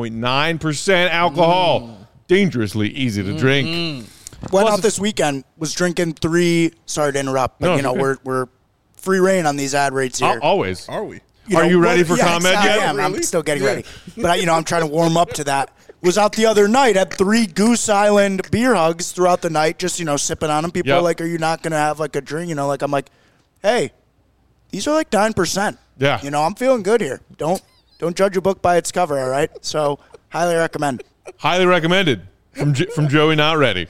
Speaker 1: 9.9% alcohol. Dangerously easy to drink.
Speaker 3: Went out this weekend, was drinking 3. Sorry to interrupt, but we're free reign on these ad rates here.
Speaker 1: Always.
Speaker 2: Are we?
Speaker 1: Are you ready for comment yet?
Speaker 3: I am. I'm still getting ready. But, I'm trying to warm up to that. Was out the other night, had 3 Goose Island beer hugs throughout the night, just, sipping on them. People are like, are you not going to have, like, a drink? I'm like, hey, these are like 9%.
Speaker 1: Yeah.
Speaker 3: I'm feeling good here. Don't judge a book by its cover, all right? So, highly recommend.
Speaker 1: Highly recommended from Joey Not Ready.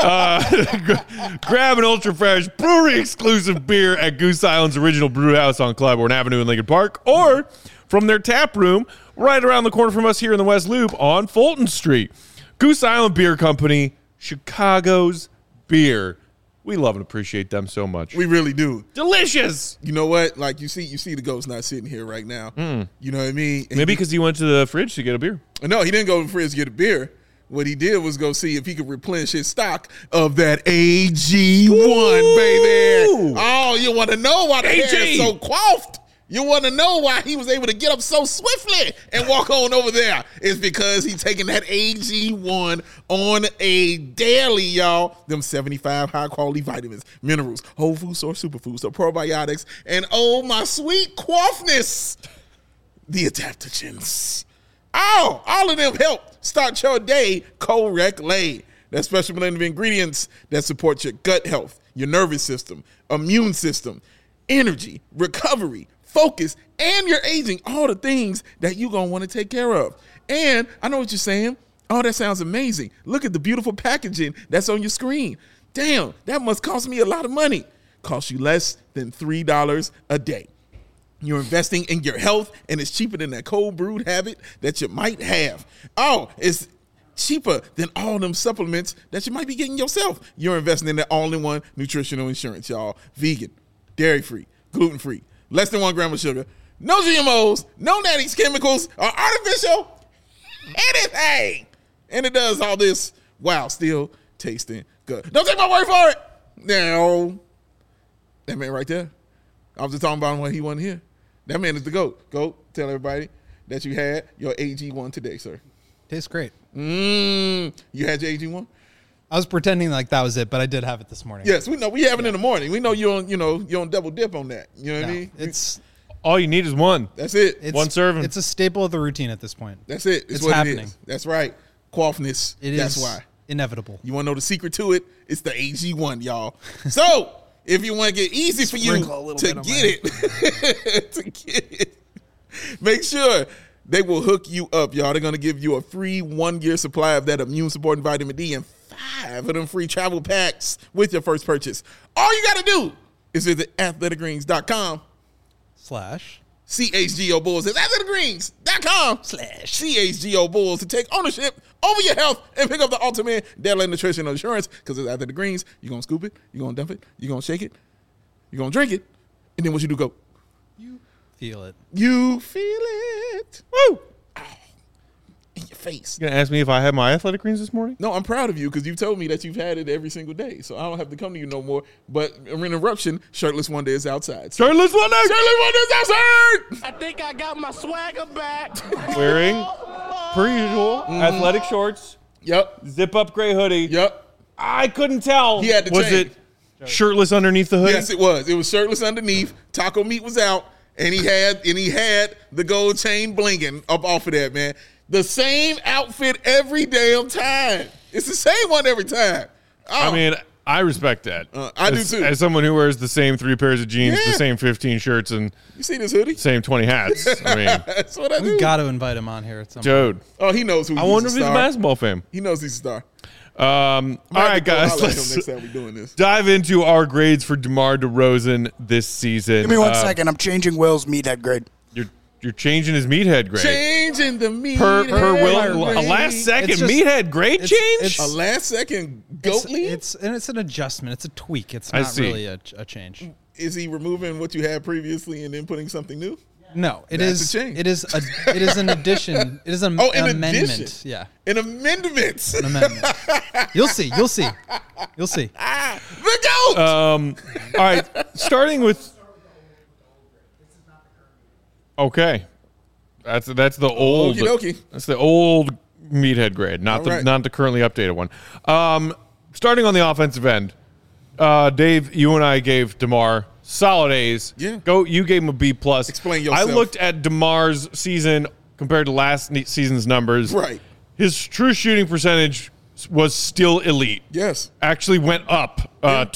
Speaker 1: Grab an ultra fresh brewery exclusive beer at Goose Island's original brew house on Claiborne Avenue in Lincoln Park, or from their tap room right around the corner from us here in the West Loop on Fulton Street. Goose Island Beer Company, Chicago's beer. We love and appreciate them so much.
Speaker 2: We really do.
Speaker 1: Delicious.
Speaker 2: You know what? Like you see the ghost not sitting here right now. You know what I mean? And
Speaker 1: Maybe because he went to the fridge to get a beer.
Speaker 2: No, he didn't go to the fridge to get a beer. What he did was go see if he could replenish his stock of that AG1, baby. Oh, you want to know why the hair is so coiffed? You want to know why he was able to get up so swiftly and walk on over there? It's because he's taking that AG1 on a daily, y'all. Them 75 high-quality vitamins, minerals, whole food source superfoods, so probiotics, and oh, my sweet coiffness, the adaptogens. Oh, all of them help start your day correctly. That special blend of ingredients that support your gut health, your nervous system, immune system, energy, recovery, focus, and your aging, all the things that you're going to want to take care of. And I know what you're saying. Oh, that sounds amazing. Look at the beautiful packaging that's on your screen. Damn, that must cost me a lot of money. Cost you less than $3 a day. You're investing in your health, and it's cheaper than that cold brewed habit that you might have. Oh, it's cheaper than all them supplements that you might be getting yourself. You're investing in the all-in-one nutritional insurance, y'all. Vegan, dairy-free, gluten-free, less than 1 gram of sugar, no GMOs, no natties chemicals, or artificial anything. And it does all this while still tasting good. Don't take my word for it. No. That man right there. I was just talking about him when he wasn't here. That man is the GOAT. GOAT, tell everybody that you had your AG1 today, sir.
Speaker 4: Tastes great.
Speaker 2: You had your AG1?
Speaker 4: I was pretending like that was it, but I did have it this morning.
Speaker 2: Yes, we know. We have it in the morning. We know you don't double dip on that. You know what I mean?
Speaker 4: It's
Speaker 1: All you need is one.
Speaker 2: That's it.
Speaker 1: One serving.
Speaker 4: It's a staple of the routine at this point.
Speaker 2: That's it.
Speaker 4: It's
Speaker 2: what
Speaker 4: happening.
Speaker 2: It is. That's right. Quaffness. That's why.
Speaker 4: Inevitable.
Speaker 2: You want to know the secret to it? It's the AG1, y'all. So if you want to get easy for you to get it, make sure they will hook you up, y'all. They're going to give you a free 1-year supply of that immune-supporting vitamin D and 5 of them free travel packs with your first purchase. All you got to do is visit athleticgreens.com/ CHGO Bulls. It's athleticgreens.com/ CHGO Bulls to take ownership over your health and pick up the ultimate daily nutritional insurance, because it's Athletic Greens. You're going to scoop it, you're going to dump it, you're going to shake it, you're going to drink it, and then what you do, go.
Speaker 4: You feel it.
Speaker 2: You feel it. Woo! Oh, in your face.
Speaker 1: You gonna ask me if I had my Athletic Greens this morning?
Speaker 2: No, I'm proud of you because you've told me that you've had it every single day, so I don't have to come to you no more. But an interruption, Shirtless Wonder is outside.
Speaker 1: Shirtless Wonder!
Speaker 2: Shirtless Wonder is outside!
Speaker 5: I think I got my swagger back.
Speaker 1: Wearing, per usual, athletic shorts,
Speaker 2: Yep.
Speaker 1: zip-up gray hoodie.
Speaker 2: Yep.
Speaker 1: I couldn't tell.
Speaker 2: He had to
Speaker 1: Was
Speaker 2: change.
Speaker 1: it shirtless underneath the hoodie?
Speaker 2: Yes, it was. It was shirtless underneath. Taco meat was out, and he had the gold chain blinging up off of that, man. The same outfit every damn time. It's the same one every time. Oh.
Speaker 1: I mean, I respect that.
Speaker 2: I do too.
Speaker 1: As someone who wears the same 3 pairs of jeans,
Speaker 2: Yeah.
Speaker 1: the same 15 shirts, and
Speaker 2: You see this hoodie?
Speaker 1: same 20 hats. I mean,
Speaker 2: That's what I do.
Speaker 4: We got to invite him on here at some point.
Speaker 1: dude.
Speaker 2: Oh, he knows who
Speaker 1: I
Speaker 2: he's
Speaker 1: wonder
Speaker 2: a
Speaker 1: if he's a
Speaker 2: star.
Speaker 1: basketball fan.
Speaker 2: He knows he's a star.
Speaker 1: All right, guys,
Speaker 2: I'll
Speaker 1: let's
Speaker 2: next time we're doing this.
Speaker 1: dive into our grades for DeMar DeRozan this season.
Speaker 3: Give me 1 second. I'm changing Will's meathead grade.
Speaker 1: You're changing his meathead grade.
Speaker 2: Changing the meat.
Speaker 1: Per Will, a last second
Speaker 4: It's just-
Speaker 1: meathead grade
Speaker 4: it's-
Speaker 1: change?
Speaker 4: it's-
Speaker 2: A last second goat lead?
Speaker 4: It's an adjustment. It's a tweak. It's
Speaker 1: I
Speaker 4: not
Speaker 1: see.
Speaker 4: really a change.
Speaker 2: Is he removing what you had previously and then putting something new?
Speaker 4: No, it
Speaker 2: That's
Speaker 4: is.
Speaker 2: a change.
Speaker 4: It is an addition. It is an
Speaker 2: Oh, an
Speaker 4: amendment.
Speaker 2: addition.
Speaker 4: Yeah,
Speaker 2: An amendment.
Speaker 4: an amendment. You'll see. You'll see. You'll see.
Speaker 2: The goat.
Speaker 1: All right, starting with. Okay, that's the old.
Speaker 2: Okie dokie.
Speaker 1: That's the old meathead grade, not
Speaker 2: All right.
Speaker 1: not the currently updated one. Starting on the offensive end, Dave, you and I gave DeMar solid A's.
Speaker 2: Yeah.
Speaker 1: You gave him a B plus.
Speaker 2: Explain yourself.
Speaker 1: I looked at DeMar's season compared to last season's numbers.
Speaker 2: Right.
Speaker 1: His true shooting percentage was still elite.
Speaker 2: Yes.
Speaker 1: Actually went up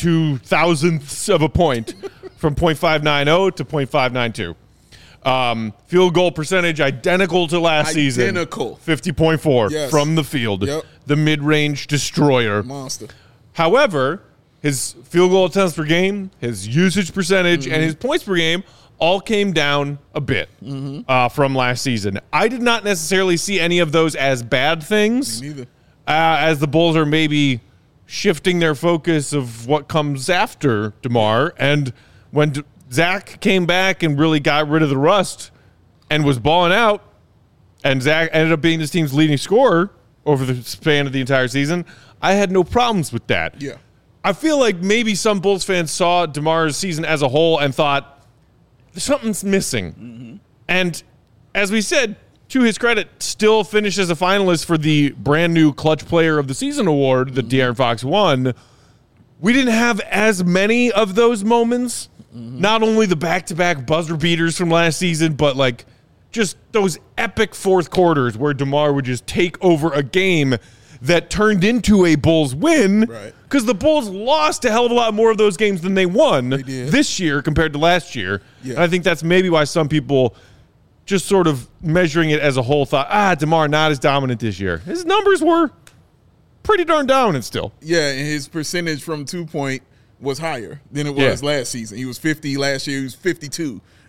Speaker 1: 0.02 of a point from 0.590 to 0.592. Field goal percentage identical to last season.
Speaker 2: Identical.
Speaker 1: 50.4
Speaker 2: Yes.
Speaker 1: from the field.
Speaker 2: Yep.
Speaker 1: The mid-range destroyer.
Speaker 2: Monster.
Speaker 1: However, his field goal attempts per game, his usage percentage, and his points per game all came down a bit from last season. I did not necessarily see any of those as bad things.
Speaker 2: Me neither.
Speaker 1: As the Bulls are maybe shifting their focus of what comes after DeMar. And when Zach came back and really got rid of the rust and was balling out, and Zach ended up being this team's leading scorer over the span of the entire season, I had no problems with that.
Speaker 2: Yeah.
Speaker 1: I feel like maybe some Bulls fans saw DeMar's season as a whole and thought, something's missing. And as we said, to his credit, still finished as a finalist for the brand new Clutch Player of the Season award that De'Aaron Fox won. We didn't have as many of those moments. Not only the back-to-back buzzer beaters from last season, but like just those epic fourth quarters where DeMar would just take over a game that turned into a Bulls win.
Speaker 2: Right.
Speaker 1: Because the Bulls lost a hell of a lot more of those games than they won
Speaker 2: did.
Speaker 1: this year compared to last year.
Speaker 2: Yeah.
Speaker 1: And I think that's maybe why some people just sort of measuring it as a whole thought, DeMar not as dominant this year. His numbers were pretty darn dominant still.
Speaker 2: Yeah, and his percentage from 2-point was higher than it was last season. He was 50 last year. He was 52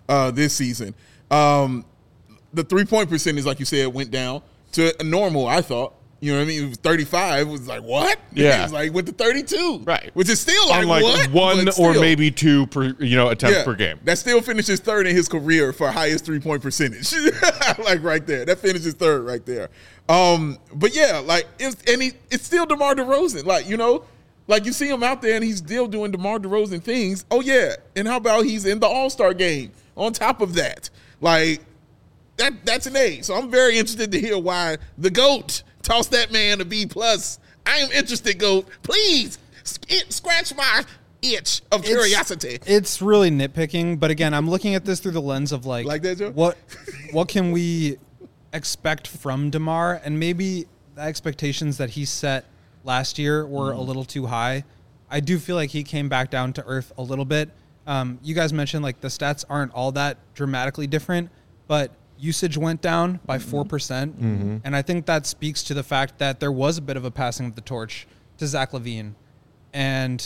Speaker 2: this season. The 3-point percentage, like you said, went down to a normal, I thought. You know what I mean? It was 35. It was like, what?
Speaker 1: Yeah.
Speaker 2: It was like, went to 32.
Speaker 1: Right.
Speaker 2: Which is still like,
Speaker 1: Unlike
Speaker 2: what?
Speaker 1: one
Speaker 2: But
Speaker 1: or
Speaker 2: still.
Speaker 1: maybe two per attempts per game.
Speaker 2: That still finishes third in his career for highest 3-point percentage. Like right there. That finishes third right there. But yeah, like it's still DeMar DeRozan. Like, like you see him out there and he's still doing DeMar DeRozan things. Oh yeah. And how about he's in the All-Star game on top of that? Like that's an A. So I'm very interested to hear why the GOAT toss that man a B+. I am interested, GOAT. Please scratch my itch of curiosity.
Speaker 4: It's really nitpicking, but again, I'm looking at this through the lens of like
Speaker 2: that, Joe?
Speaker 4: What can we expect from DeMar? And maybe the expectations that he set last year were a little too high. I do feel like he came back down to earth a little bit. You guys mentioned like the stats aren't all that dramatically different, but usage went down by 4%. And I think that speaks to the fact that there was a bit of a passing of the torch to Zach LaVine. And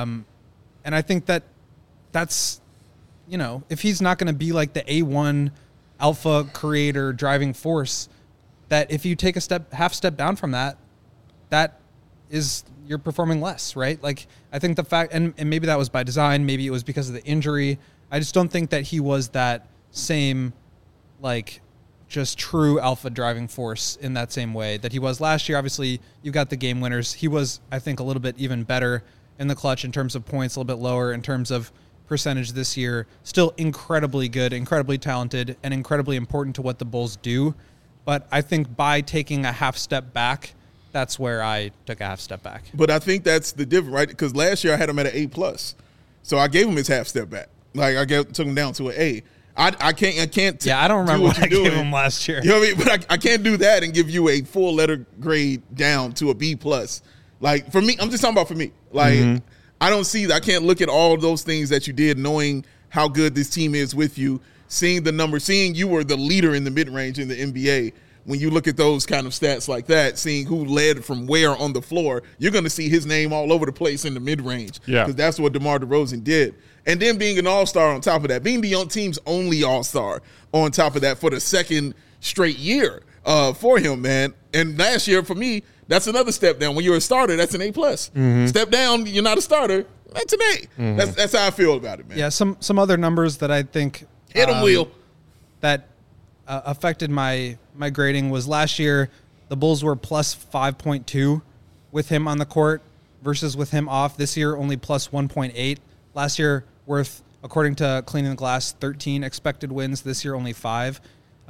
Speaker 4: I think that's, if he's not going to be like the A1 alpha creator driving force, that if you take a half step down from that is you're performing less, right? Like I think the fact, and maybe that was by design, maybe it was because of the injury. I just don't think that he was that same like just true alpha driving force in that same way that he was last year. Obviously, you got the game winners. He was, I think, a little bit even better in the clutch in terms of points, a little bit lower in terms of percentage this year. Still incredibly good, incredibly talented, and incredibly important to what the Bulls do. But I think by taking a half step back, that's where I took a half step back.
Speaker 2: But I think that's the difference, right? Because last year I had him at an A+. So I gave him his half step back. Like I took him down to an A. I can't.
Speaker 4: Yeah, I don't remember what I gave him last year.
Speaker 2: You know what I mean? But I can't do that and give you a full letter grade down to a B+. Like for me, I'm just talking about for me. Like I don't see that. I can't look at all of those things that you did, knowing how good this team is with you, seeing the numbers, seeing you were the leader in the mid range in the NBA. When you look at those kind of stats like that, seeing who led from where on the floor, you're going to see his name all over the place in the mid range.
Speaker 1: Yeah,
Speaker 2: because that's what DeMar DeRozan did. And then being an all-star on top of that, being the team's only all-star on top of that for the second straight year for him, man. And last year, for me, that's another step down. When you're a starter, that's an A+. Step down, you're not a starter, that's an A. That's how I feel about it, man.
Speaker 4: Yeah, some other numbers that I think
Speaker 2: hit him, Will.
Speaker 4: That affected my grading was last year, the Bulls were plus 5.2 with him on the court versus with him off. This year, only plus 1.8. Last year, worth, according to Cleaning the Glass, 13 expected wins. This year, only 5.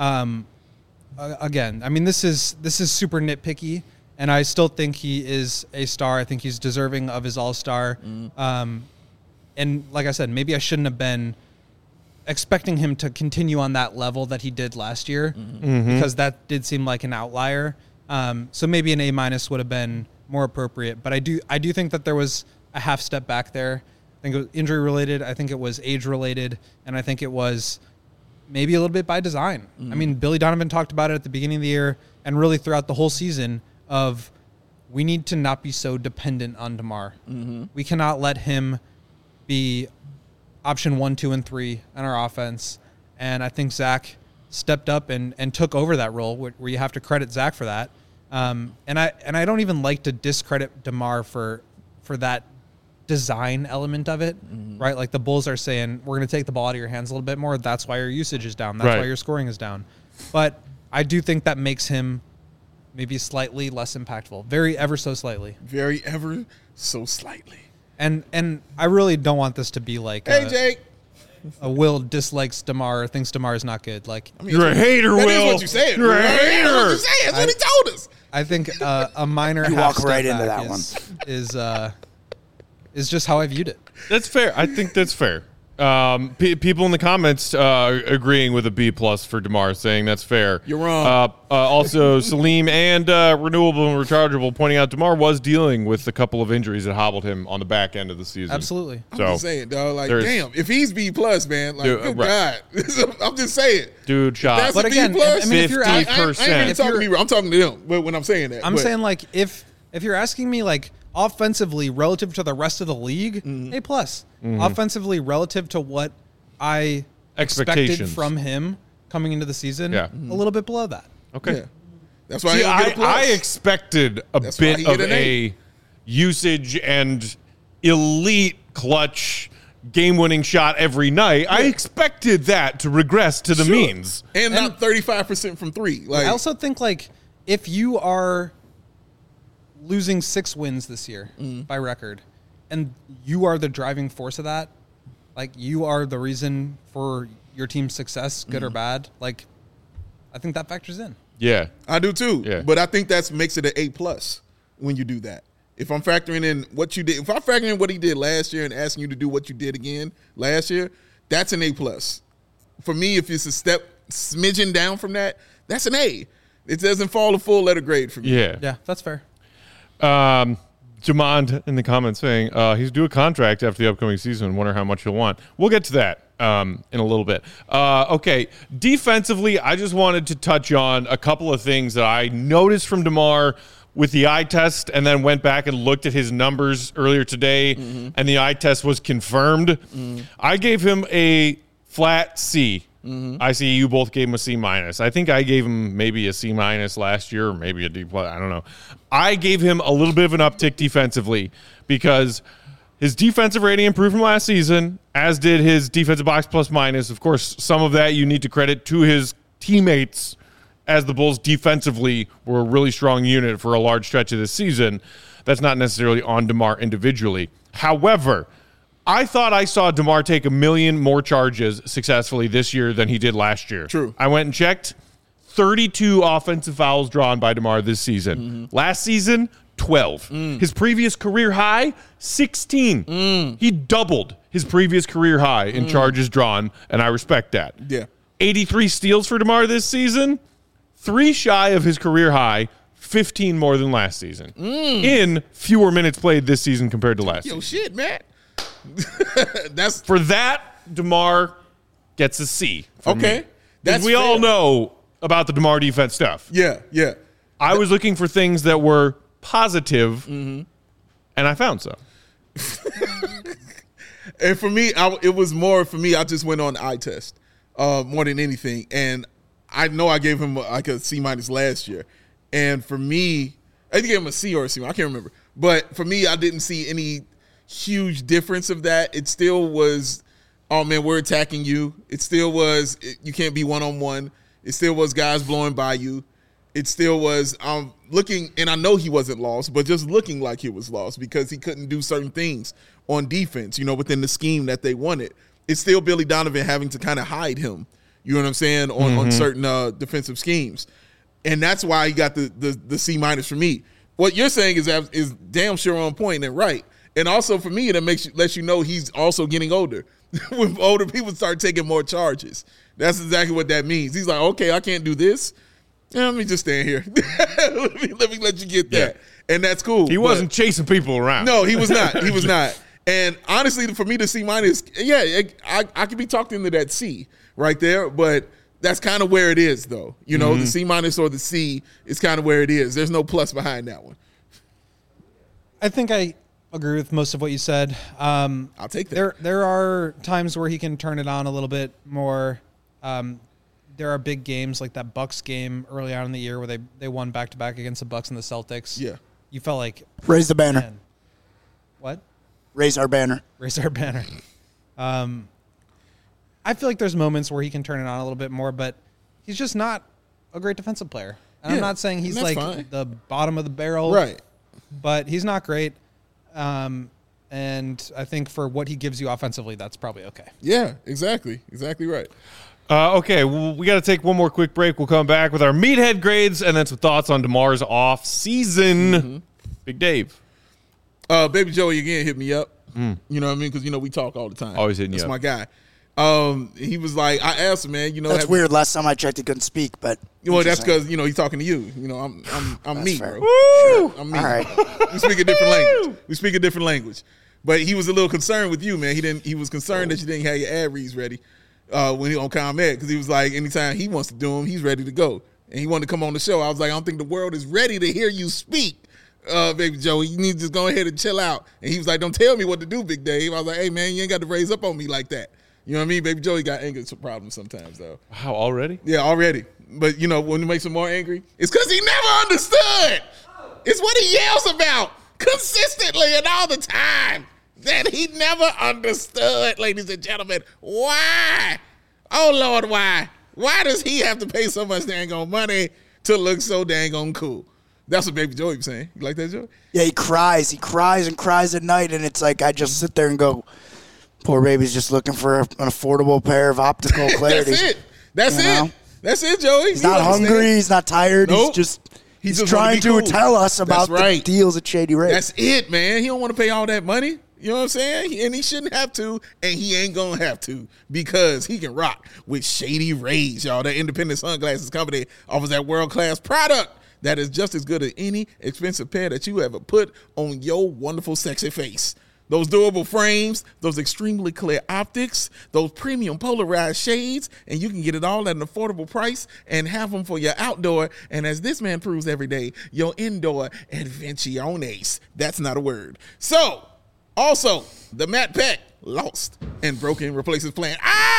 Speaker 4: Again, I mean, this is super nitpicky, and I still think he is a star. I think he's deserving of his all-star. And like I said, maybe I shouldn't have been expecting him to continue on that level that he did last year because that did seem like an outlier. So maybe an A- would have been more appropriate. But I do think that there was a half step back there. I think it was injury related. I think it was age related. And I think it was maybe a little bit by design. I mean, Billy Donovan talked about it at the beginning of the year and really throughout the whole season of we need to not be so dependent on DeMar. We cannot let him be option 1, 2, and 3 on our offense. And I think Zach stepped up and took over that role where you have to credit Zach for that. And I don't even like to discredit DeMar for that design element of it, right? Like the Bulls are saying, we're going to take the ball out of your hands a little bit more. That's why your usage is down. That's why your scoring is down. But I do think that makes him maybe slightly less impactful. Very ever so slightly.
Speaker 2: Very ever so slightly.
Speaker 4: And I really don't want this to be like
Speaker 2: Jake.
Speaker 4: A Will dislikes DeMar or thinks DeMar is not good. Like
Speaker 2: I mean,
Speaker 1: you're a hater,
Speaker 2: that
Speaker 1: Will.
Speaker 2: That is what you said.
Speaker 1: You're a hater.
Speaker 2: That's what you said. That's what he told us.
Speaker 4: I think a minor
Speaker 3: You
Speaker 4: half
Speaker 3: walk right
Speaker 4: step
Speaker 3: into
Speaker 4: back
Speaker 3: that
Speaker 4: is just how I viewed it.
Speaker 1: That's fair. I think that's fair. People in the comments agreeing with a B+ for DeMar, saying that's fair.
Speaker 2: You're wrong.
Speaker 1: Also, Salim and Renewable and Rechargeable pointing out DeMar was dealing with a couple of injuries that hobbled him on the back end of the season.
Speaker 4: Absolutely.
Speaker 2: I'm just saying, dog. Like, damn, if he's B+, man, like, good God. I'm just saying.
Speaker 1: Dude, shot.
Speaker 2: That's
Speaker 4: But
Speaker 2: a
Speaker 4: again,
Speaker 2: B+.
Speaker 4: I mean, if you're
Speaker 2: I ain't even talking to me. I'm talking to them when I'm saying that.
Speaker 4: I'm saying, like, if you're asking me, like, offensively relative to the rest of the league, A+. Offensively relative to what I
Speaker 1: expectations
Speaker 4: from him coming into the season,
Speaker 1: Yeah.
Speaker 4: a little bit below that.
Speaker 1: Okay.
Speaker 2: Yeah. That's why
Speaker 1: See,
Speaker 2: he don't get a plus.
Speaker 1: I expected a
Speaker 2: That's why
Speaker 1: bit
Speaker 2: he
Speaker 1: of
Speaker 2: get an
Speaker 1: a usage and elite clutch game-winning shot every night. I expected that to regress to the
Speaker 2: Sure.
Speaker 1: means.
Speaker 2: and not 35% from three. Like
Speaker 4: I also think like if you are losing 6 wins this year by record, and you are the driving force of that, like you are the reason for your team's success, good or bad. Like, I think that factors in.
Speaker 1: Yeah.
Speaker 2: I do too.
Speaker 1: Yeah.
Speaker 2: But I think that makes it an A+ when you do that. If I'm factoring in what you did, if I'm factoring in what he did last year and asking you to do what you did again last year, that's an A+. For me, if it's a smidgen down from that, that's an A. It doesn't fall a full letter grade for me.
Speaker 1: Yeah.
Speaker 4: Yeah, that's fair.
Speaker 1: Jamond in the comments saying he's due a contract after the upcoming season. Wonder how much he'll want. We'll get to that in a little bit. Okay, defensively, I just wanted to touch on a couple of things that I noticed from DeMar with the eye test, and then went back and looked at his numbers earlier today, and the eye test was confirmed. I gave him a flat C. I see you both gave him a C-. I think I gave him maybe a C- last year, or maybe a D+. I don't know. I gave him a little bit of an uptick defensively because his defensive rating improved from last season, as did his defensive box plus minus. Of course, some of that you need to credit to his teammates, as the Bulls defensively were a really strong unit for a large stretch of this season. That's not necessarily on DeMar individually. However, I thought I saw DeMar take 1 million more charges successfully this year than he did last year.
Speaker 2: True.
Speaker 1: I went and checked. 32 offensive fouls drawn by DeMar this season. Last season, 12. His previous career high, 16. He doubled his previous career high in charges drawn, and I respect that.
Speaker 2: Yeah.
Speaker 1: 83 steals for DeMar this season, 3 shy of his career high, 15 more than last season. In fewer minutes played this season compared to last
Speaker 2: Yo,
Speaker 1: season.
Speaker 2: shit, man. That's
Speaker 1: For that, DeMar gets a C. from
Speaker 2: okay.
Speaker 1: me.
Speaker 2: That's
Speaker 1: we all
Speaker 2: fair.
Speaker 1: know about the DeMar defense stuff.
Speaker 2: Yeah, yeah.
Speaker 1: I was looking for things that were positive, and I found some.
Speaker 2: And for me, it was more for me. I just went on the eye test more than anything, and I know I gave him like a C- last year, and for me, I think I gave him a C or a C. I can't remember, but for me, I didn't see any huge difference of that. It still was, oh man, we're attacking you. It still was, you can't be one-on-one. It still was guys blowing by you. It still was looking, and I know he wasn't lost, but just looking like he was lost because he couldn't do certain things on defense, within the scheme that they wanted. It's still Billy Donovan having to kind of hide him, you know what I'm saying, on certain defensive schemes. And that's why he got the C- for me. What you're saying is damn sure on point and right. And also for me, that lets you know he's also getting older. When older people start taking more charges, that's exactly what that means. He's like, okay, I can't do this. Yeah, let me just stand here. let me let you get that. Yeah. And that's cool.
Speaker 1: He wasn't chasing people around.
Speaker 2: No, he was not. He was not. And honestly, for me, the C-, yeah, I could be talked into that C right there, but that's kind of where it is, though. The C- or the C is kind of where it is. There's no plus behind that one.
Speaker 4: I think I agree with most of what you said.
Speaker 2: I'll take that.
Speaker 4: There are times where he can turn it on a little bit more. There are big games like that Bucks game early on in the year where they won back-to-back against the Bucks and the Celtics.
Speaker 2: Yeah.
Speaker 4: You felt like...
Speaker 3: Raise the banner.
Speaker 4: Man, what?
Speaker 3: Raise our banner.
Speaker 4: Raise our banner. I feel like there's moments where he can turn it on a little bit more, but he's just not a great defensive player. And I'm not saying he's like
Speaker 2: fine.
Speaker 4: the bottom of the barrel.
Speaker 2: Right.
Speaker 4: But he's not great. And I think for what he gives you offensively, that's probably okay.
Speaker 2: Yeah, exactly. Exactly right.
Speaker 1: Okay, well, we got to take one more quick break. We'll come back with our meathead grades and then some thoughts on DeMar's off season. Big Dave.
Speaker 2: Baby Joey again hit me up. You know what I mean? Because we talk all the time.
Speaker 1: Always hitting you
Speaker 2: That's
Speaker 1: up.
Speaker 2: my guy. He was like, I asked him, man.
Speaker 3: That's weird. Last time I checked, he couldn't speak, but
Speaker 2: Well, that's
Speaker 3: interesting.
Speaker 2: because he's talking to you. I'm me,
Speaker 3: fair.
Speaker 2: bro.
Speaker 1: Woo!
Speaker 2: I'm me.
Speaker 3: All right.
Speaker 2: We speak a different language. We speak a different language. But he was a little concerned with you, man. He was concerned that you didn't have your ad reads ready when he on ComEd, because he was like, anytime he wants to do them, he's ready to go, and he wanted to come on the show. I was like, I don't think the world is ready to hear you speak, Baby Joey. You need to just go ahead and chill out. And he was like, don't tell me what to do, Big Dave. I was like, hey man, you ain't got to raise up on me like that. You know what I mean? Baby Joey got anger problems sometimes, though.
Speaker 1: Wow, already?
Speaker 2: Yeah, already. But, you know, when it makes him more angry, it's because he never understood. It's what he yells about consistently and all the time that he never understood, ladies and gentlemen. Why? Oh, Lord, why? Why does he have to pay so much dang on money to look so dang on cool? That's what Baby Joey was saying. You like that, Joey?
Speaker 3: Yeah, he cries. He cries and cries at night, and it's like I just sit there and go, poor baby's just looking for an affordable pair of optical clarity.
Speaker 2: That's it. That's it, Joey.
Speaker 3: He's not hungry. He's not tired.
Speaker 2: Nope.
Speaker 3: He's just trying to tell us about the deals at Shady Rays.
Speaker 2: That's it, man. He don't want to pay all that money. You know what I'm saying? And he shouldn't have to, and he ain't going to have to because he can rock with Shady Rays, y'all. That independent sunglasses company offers that world-class product that is just as good as any expensive pair that you ever put on your wonderful, sexy face. Those durable frames, those extremely clear optics, those premium polarized shades, and you can get it all at an affordable price and have them for your outdoor, and as this man proves every day, your indoor adventiones. That's not a word. So, also, the Matt Peck lost and broken replaces plan.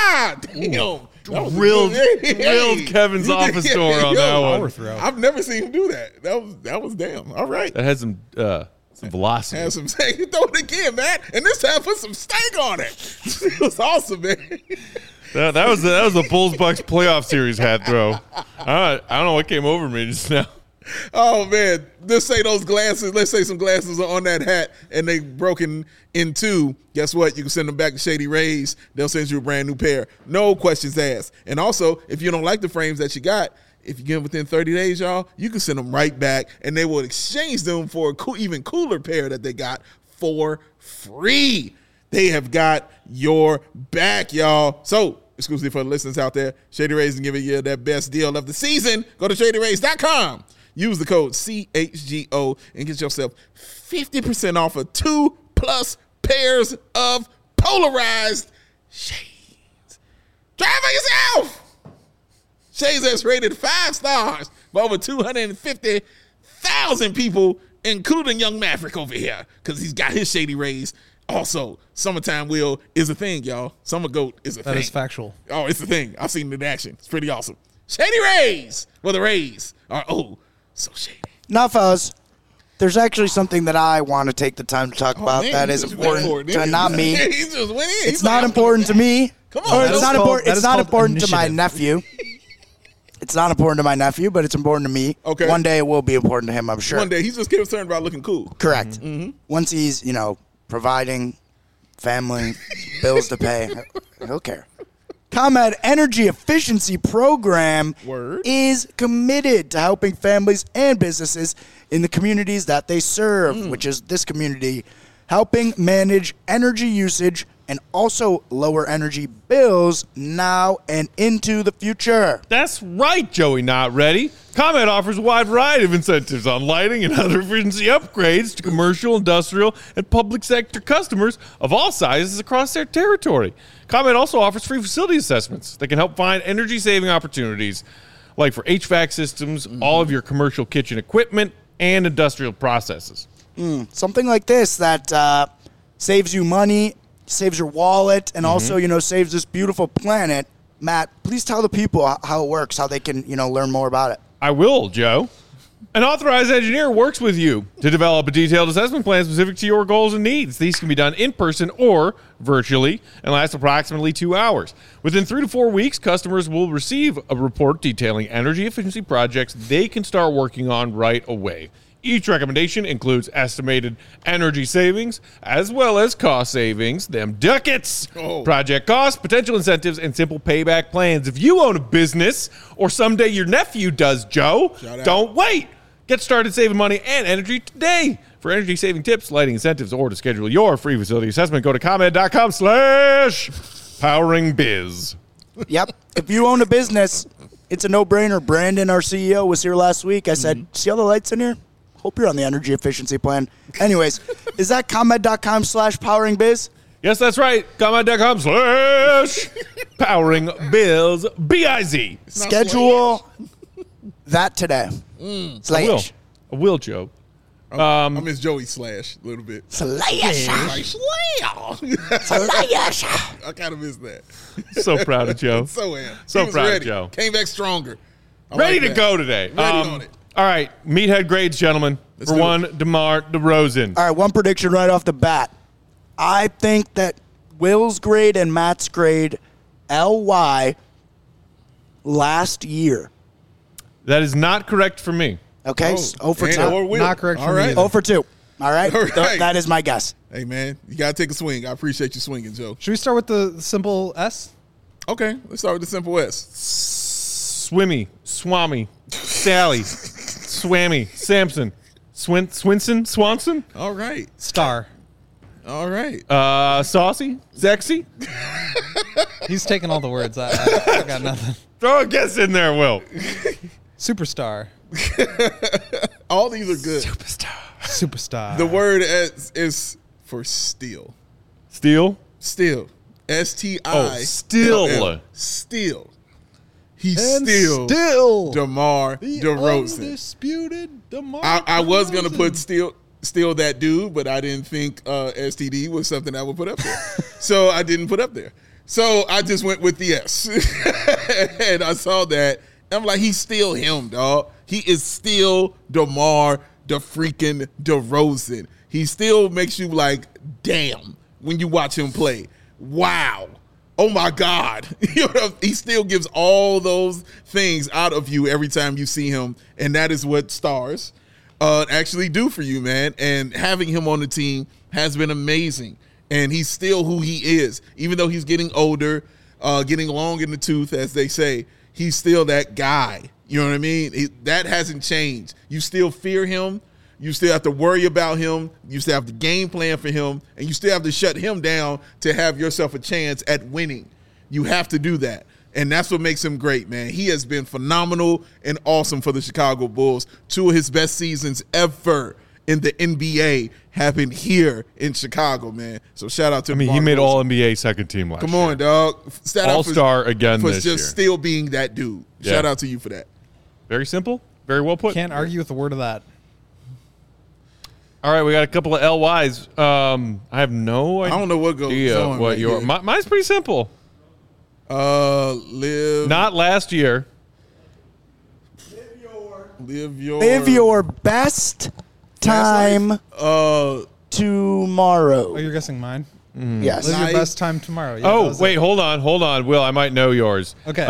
Speaker 2: Damn.
Speaker 1: Drilled Kevin's office door on that one.
Speaker 2: I've never seen him do that. That was damn. All right.
Speaker 1: That had some velocity.
Speaker 2: Have some stank. Throw it again, man. And this time put some stank on it. It was awesome, man.
Speaker 1: That was the Bulls Bucks playoff series hat throw. I don't know what came over me just now.
Speaker 2: Oh man, let's say those glasses. Let's say some glasses are on that hat and they broken in two. Guess what? You can send them back to Shady Rays. They'll send you a brand new pair. No questions asked. And also, if you don't like the frames that you got, if you get them within 30 days, y'all, you can send them right back, and they will exchange them for a even cooler pair that they got for free. They have got your back, y'all. So, exclusively for the listeners out there, Shady Rays is giving you their best deal of the season. Go to ShadyRays.com. Use the code CHGO and get yourself 50% off of 2+ pairs of polarized shades. Try it for yourself. Shades that's rated 5 stars by over 250,000 people, including young Maverick over here, because he's got his Shady Rays. Also, summertime wheel is a thing, y'all. Summer goat is a thing.
Speaker 4: That is factual.
Speaker 2: Oh, it's a thing. I've seen it in action. It's pretty awesome. Shady Rays. Well, the Rays are, so shady.
Speaker 3: Now, fellas, there's actually something that I want to take the time to talk about that is important to not me.
Speaker 2: He's just winning.
Speaker 3: It's not important to me.
Speaker 2: Come on.
Speaker 3: It's not important. It's not important to my nephew. It's not important to my nephew, but it's important to me.
Speaker 2: Okay.
Speaker 3: One day it will be important to him, I'm sure.
Speaker 2: One day. He's just concerned about looking cool.
Speaker 3: Correct. Mm-hmm. Once he's, providing family, bills to pay, he'll care. ComEd Energy Efficiency Program is committed to helping families and businesses in the communities that they serve, which is this community, helping manage energy usage and also lower energy bills now and into the future.
Speaker 1: That's right, Joey Not Ready. ComEd offers a wide variety of incentives on lighting and other efficiency upgrades to commercial, industrial, and public sector customers of all sizes across their territory. ComEd also offers free facility assessments that can help find energy-saving opportunities, like for HVAC systems, all of your commercial kitchen equipment, and industrial processes.
Speaker 3: Something like this that saves you money, saves your wallet, and also, saves this beautiful planet. Matt, please tell the people how it works, how they can, learn more about it.
Speaker 1: I will, Joe. An authorized engineer works with you to develop a detailed assessment plan specific to your goals and needs. These can be done in person or virtually and last approximately 2 hours. Within 3 to 4 weeks, customers will receive a report detailing energy efficiency projects they can start working on right away. Each recommendation includes estimated energy savings as well as cost savings, them ducats, project costs, potential incentives, and simple payback plans. If you own a business or someday your nephew does, Joe, don't wait. Get started saving money and energy today. For energy saving tips, lighting incentives, or to schedule your free facility assessment, go to ComEd.com/poweringbiz.
Speaker 3: Yep. If you own a business, it's a no-brainer. Brandon, our CEO, was here last week. I said, see all the lights in here? Hope you're on the energy efficiency plan. Anyways, is that ComEd.com/poweringbiz?
Speaker 1: Yes, that's right. ComEd.com/poweringbiz. B-I-Z.
Speaker 3: Schedule that today.
Speaker 1: I will, Joe.
Speaker 2: I miss Joey Slash a little bit.
Speaker 3: Slash.
Speaker 2: Like,
Speaker 3: Slash.
Speaker 2: I kind of miss that.
Speaker 1: So proud of Joe.
Speaker 2: So am.
Speaker 1: So
Speaker 2: He was
Speaker 1: proud of
Speaker 2: ready.
Speaker 1: Joe.
Speaker 2: Came back stronger. I
Speaker 1: Ready
Speaker 2: like
Speaker 1: to
Speaker 2: that.
Speaker 1: go today.
Speaker 2: Ready on it.
Speaker 1: All right, meathead grades, gentlemen.
Speaker 2: Let's
Speaker 1: For
Speaker 2: do
Speaker 1: one, DeMar DeRozan.
Speaker 3: All right, one prediction right off the bat. I think that Will's grade and Matt's grade, LY, last year.
Speaker 1: That is not correct for me.
Speaker 3: Okay, 0 for 2.
Speaker 2: Or Will.
Speaker 4: Not correct
Speaker 2: All
Speaker 4: for me
Speaker 2: right.
Speaker 4: either.
Speaker 3: 0 for 2. All right?
Speaker 2: All right.
Speaker 3: That is my guess.
Speaker 2: Hey, man, you got to take a swing. I appreciate you swinging, Joe.
Speaker 4: Should we start with the simple S?
Speaker 2: Okay, let's start with the simple S.
Speaker 1: Swimmy, Swami, Sally, Swammy, Samson, Swinson, Swanson,
Speaker 2: All right.
Speaker 4: Star.
Speaker 2: All right.
Speaker 1: Saucy, Sexy.
Speaker 4: He's taking all the words. I got nothing.
Speaker 1: Throw a guess in there, Will.
Speaker 4: Superstar.
Speaker 2: All these are good.
Speaker 4: Superstar.
Speaker 2: The word S is for steal.
Speaker 1: Steel.
Speaker 2: Still. S-T-I.
Speaker 1: Oh, still.
Speaker 2: Still. He's
Speaker 4: And
Speaker 2: still DeMar
Speaker 4: the
Speaker 2: DeRozan.
Speaker 4: undisputed DeMar
Speaker 2: I was going to
Speaker 4: DeRozan.
Speaker 2: put still that dude, but I didn't think STD was something I would put up there. So I didn't put up there. So I just went with the S. And I saw that. I'm like, he's still him, dog. He is still DeMar freaking DeRozan. He still makes you like, damn, when you watch him play. Wow. Oh my God. You know, he still gives all those things out of you every time you see him. And that is what stars actually do for you, man. And having him on the team has been amazing. And he's still who he is. Even though he's getting older, getting long in the tooth, as they say, he's still that guy. You know what I mean? That hasn't changed. You still fear him. You still have to worry about him. You still have to game plan for him. And you still have to shut him down to have yourself a chance at winning. You have to do that. And that's what makes him great, man. He has been phenomenal and awesome for the Chicago Bulls. 2 of his best seasons ever in the NBA happened here in Chicago, man. So shout out to
Speaker 1: I mean, he made All NBA second team last
Speaker 2: Come
Speaker 1: year.
Speaker 2: on, dog.
Speaker 1: All-star again
Speaker 2: for
Speaker 1: this
Speaker 2: just
Speaker 1: year.
Speaker 2: still being that dude.
Speaker 1: Yeah.
Speaker 2: Shout out to you for that.
Speaker 1: Very simple. Very well put.
Speaker 4: Can't argue with a word of that.
Speaker 1: All right, we got a couple of LYs. I have no idea.
Speaker 2: I don't know what goes on
Speaker 1: what
Speaker 2: right
Speaker 1: your
Speaker 2: here.
Speaker 1: mine's pretty simple.
Speaker 2: Live
Speaker 1: Not last year.
Speaker 3: Live your best time tomorrow.
Speaker 4: Oh, you're guessing mine?
Speaker 3: Yes.
Speaker 4: Live
Speaker 2: Night.
Speaker 4: your best time tomorrow. Yeah, that
Speaker 1: Oh,
Speaker 4: was
Speaker 1: wait,
Speaker 4: it.
Speaker 1: hold on. Will, I might know yours.
Speaker 4: Okay.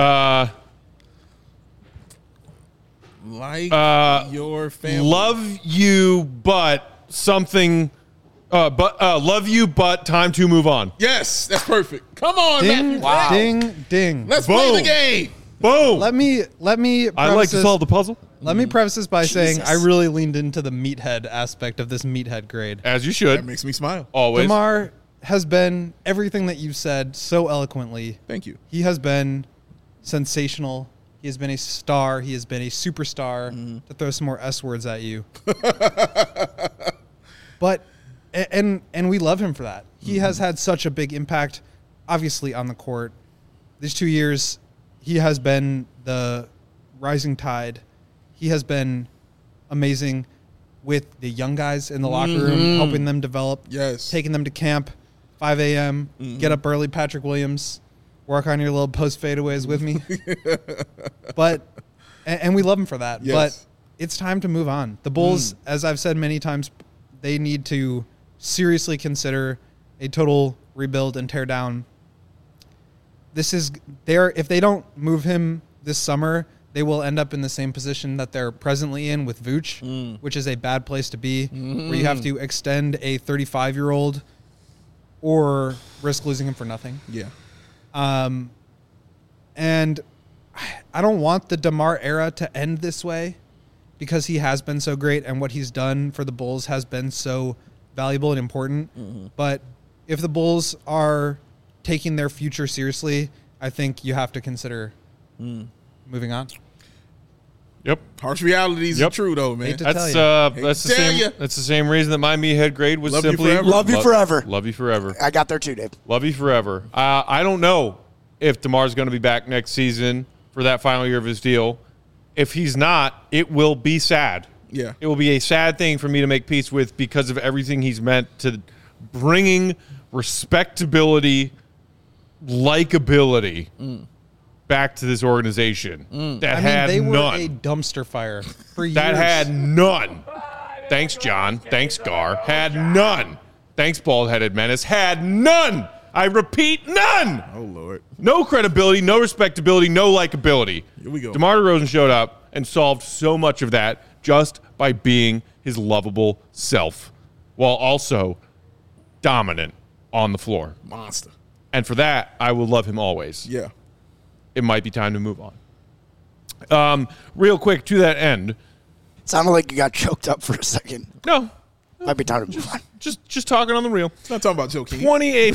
Speaker 2: like
Speaker 1: Uh,
Speaker 2: your family.
Speaker 1: Love you, but something. Love you, but time to move on.
Speaker 2: Yes, that's perfect. Come on,
Speaker 4: Ding,
Speaker 2: Matthew.
Speaker 4: ding, ding.
Speaker 2: Let's play
Speaker 1: Boom.
Speaker 2: the game.
Speaker 1: Boom.
Speaker 4: Let me.
Speaker 1: I like to solve the puzzle.
Speaker 4: Let me preface this by saying
Speaker 3: Jesus.
Speaker 4: I really leaned into the meathead aspect of this meathead grade.
Speaker 1: As you
Speaker 2: That
Speaker 1: should.
Speaker 2: makes me smile.
Speaker 1: Always.
Speaker 4: DeMar has been everything that you've said so eloquently.
Speaker 2: Thank you.
Speaker 4: He has been sensational. He has been a star. He has been a superstar. To throw some more S words at you. But and we love him for that. He has had such a big impact, obviously, on the court. These 2 years, he has been the rising tide. He has been amazing with the young guys in the locker room, helping them develop.
Speaker 2: Yes.
Speaker 4: Taking them to camp, 5 a.m., get up early, Patrick Williams, work on your little post fadeaways with me. But, and we love him for that.
Speaker 2: Yes.
Speaker 4: But it's time to move on. The Bulls, as I've said many times, they need to seriously consider a total rebuild and tear down. This is there. If they don't move him this summer, they will end up in the same position that they're presently in with Vooch, which is a bad place to be, where you have to extend a 35-year-old or risk losing him for nothing.
Speaker 2: Yeah.
Speaker 4: And I don't want the DeMar era to end this way because he has been so great and what he's done for the Bulls has been so valuable and important. But if the Bulls are taking their future seriously, I think you have to consider moving on.
Speaker 1: Yep.
Speaker 2: Harsh realities
Speaker 1: Yep.
Speaker 2: are true, though, man.
Speaker 4: Hate to
Speaker 1: That's
Speaker 4: tell you.
Speaker 1: that's the
Speaker 2: tell
Speaker 1: same.
Speaker 2: ya.
Speaker 1: That's the same reason that my meathead grade was
Speaker 2: Love you
Speaker 1: simply
Speaker 2: forever.
Speaker 3: Love you forever.
Speaker 1: Love you forever.
Speaker 3: I got there too, Dave.
Speaker 1: Love you forever. I don't know if DeMar's going to be back next season for that final year of his deal. If he's not, it will be sad.
Speaker 2: Yeah.
Speaker 1: It will be a sad thing for me to make peace with because of everything he's meant to bringing respectability, likability back to this organization that had
Speaker 4: they were
Speaker 1: none.
Speaker 4: a dumpster fire for years.
Speaker 1: That had none. Thanks, John. Thanks, Gar. Had none. Thanks, bald-headed menace. Had none. I repeat, none.
Speaker 2: Oh, Lord.
Speaker 1: No credibility, no respectability, no likability.
Speaker 2: Here we go.
Speaker 1: DeMar DeRozan showed up and solved so much of that just by being his lovable self while also dominant on the floor.
Speaker 2: Monster.
Speaker 1: And for that, I will love him always.
Speaker 2: Yeah.
Speaker 1: It might be time to move on. Real quick, to that end.
Speaker 3: Sounded like you got choked up for a second.
Speaker 1: No.
Speaker 3: Might be time to move on.
Speaker 1: Just talking on the real.
Speaker 2: Not talking about Joe King.
Speaker 1: 28.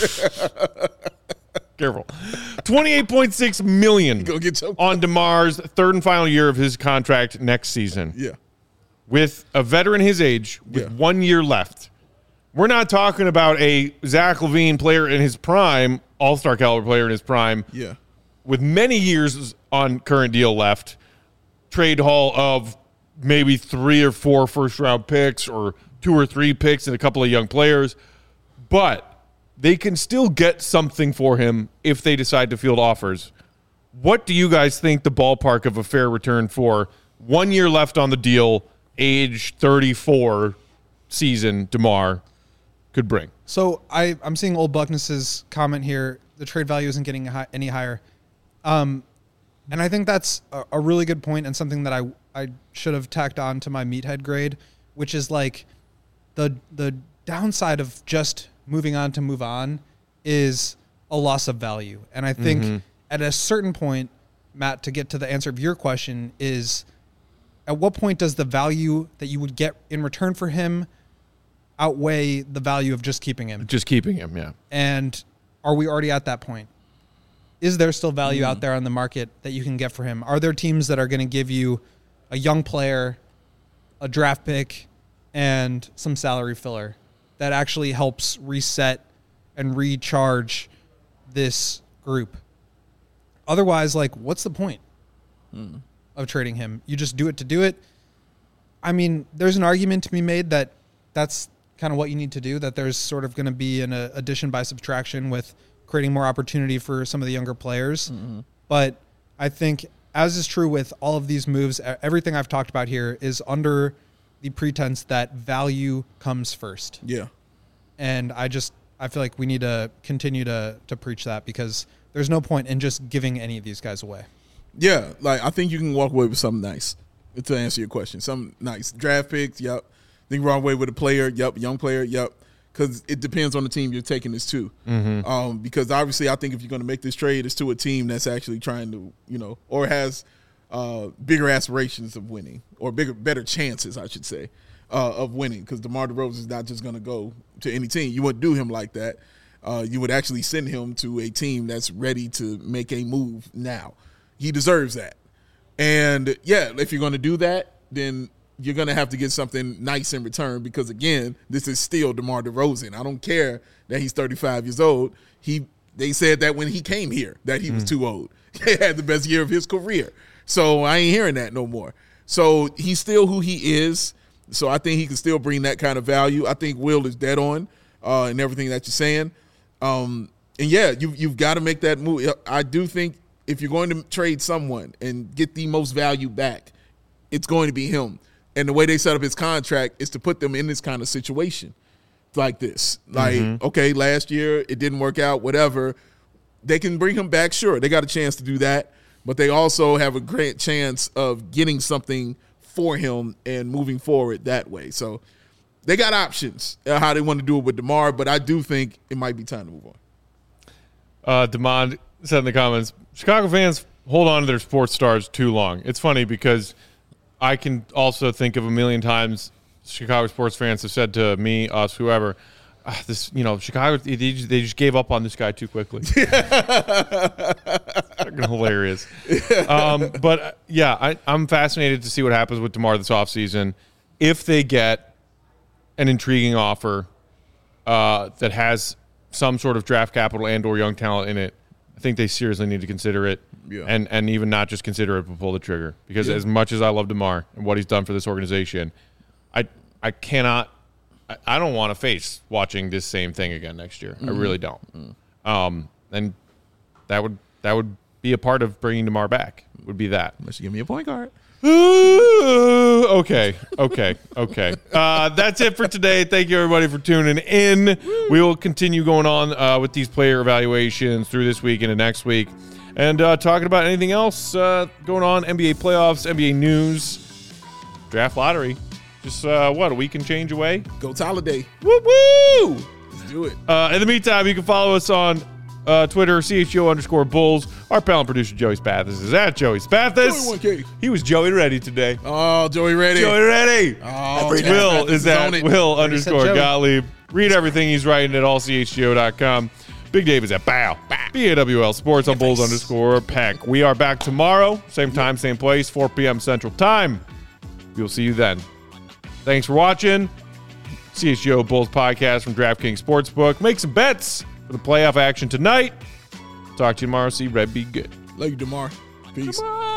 Speaker 1: Careful. $28.6 million
Speaker 2: Go get choked
Speaker 1: on DeMar's third and final year of his contract next season.
Speaker 2: Yeah.
Speaker 1: With a veteran his age, with 1 year left. We're not talking about a Zach LaVine player in his prime, all-star caliber player in his prime,
Speaker 2: Yeah.
Speaker 1: with many years on current deal left, trade haul of maybe 3 or 4 first-round picks or 2 or 3 picks and a couple of young players. But they can still get something for him if they decide to field offers. What do you guys think the ballpark of a fair return for 1 year left on the deal, age 34 season DeMar could bring?
Speaker 4: So I'm seeing Old Buckness's comment here. The trade value isn't getting any higher. And I think that's a really good point and something that I should have tacked on to my meathead grade, which is like the downside of just moving on to move on is a loss of value. And I think at a certain point, Matt, to get to the answer of your question is, at what point does the value that you would get in return for him outweigh the value of just keeping him?
Speaker 1: Just keeping him, yeah.
Speaker 4: And are we already at that point? Is there still value out there on the market that you can get for him? Are there teams that are going to give you a young player, a draft pick, and some salary filler that actually helps reset and recharge this group? Otherwise, like, what's the point of trading him? You just do it to do it. I mean, there's an argument to be made that that's kind of what you need to do, that there's sort of going to be an addition by subtraction with creating more opportunity for some of the younger players. But I think, as is true with all of these moves, everything I've talked about here is under the pretense that value comes first.
Speaker 2: Yeah.
Speaker 4: And I feel like we need to continue to preach that, because there's no point in just giving any of these guys away.
Speaker 2: Yeah. Like, I think you can walk away with something nice, to answer your question. Something nice. Draft picks, yep. Think walk away with a player, yep. Young player, yep. Because it depends on the team you're taking this to. Because obviously, I think if you're going to make this trade, it's to a team that's actually trying to, or has bigger aspirations of winning, or better chances, I should say, of winning. Because DeMar DeRozan is not just going to go to any team. You wouldn't do him like that. You would actually send him to a team that's ready to make a move now. He deserves that. And, yeah, if you're going to do that, then you're going to have to get something nice in return, because, again, this is still DeMar DeRozan. I don't care that he's 35 years old. They said that when he came here, that he was too old. He had the best year of his career. So I ain't hearing that no more. So he's still who he is. So I think he can still bring that kind of value. I think Will is dead on and everything that you're saying. And, yeah, you've got to make that move. I do think if you're going to trade someone and get the most value back, it's going to be him. And the way they set up his contract is to put them in this kind of situation like this. Like, okay, last year it didn't work out, whatever. They can bring him back, sure. They got a chance to do that. But they also have a great chance of getting something for him and moving forward that way. So they got options how they want to do it with DeMar, but I do think it might be time to move on.
Speaker 1: DeMond said in the comments, Chicago fans hold on to their sports stars too long. It's funny because I can also think of a million times Chicago sports fans have said to me, us, whoever, Chicago, they just gave up on this guy too quickly. Fucking hilarious. But, yeah, I'm fascinated to see what happens with DeMar this offseason. If they get an intriguing offer that has some sort of draft capital and or young talent in it, I think they seriously need to consider it, and even not just consider it, but pull the trigger. Because as much as I love DeMar and what he's done for this organization, I cannot. I don't want to face watching this same thing again next year. I really don't. And that would be a part of bringing DeMar back. Would be that.
Speaker 2: Unless you give me a point guard.
Speaker 1: Okay. That's it for today. Thank you, everybody, for tuning in. We will continue going on with these player evaluations through this week into next week. And talking about anything else going on, NBA playoffs, NBA news, draft lottery. Just, a week and change away?
Speaker 2: Go Holiday.
Speaker 1: Woo-woo!
Speaker 2: Let's do it.
Speaker 1: In the meantime, you can follow us on Twitter, CHGO_Bulls. Our pal and producer, Joey Spathis, is at Joey Spathis.
Speaker 2: Joey 1K.
Speaker 1: He was Joey Ready today.
Speaker 2: Oh, Joey Ready.
Speaker 1: Joey Ready.
Speaker 2: Oh,
Speaker 1: Will is at Will_Gottlieb. Read everything he's writing at allchgo.com. Big Dave is at BAWL Sports on Bulls_Peck. We are back tomorrow. Same time, same place, 4 p.m. Central Time. We'll see you then. Thanks for watching. CHGO Bulls podcast from DraftKings Sportsbook. Make some bets for the playoff action tonight. Talk to you tomorrow. See Red be good.
Speaker 2: Love you, DeMar. Peace.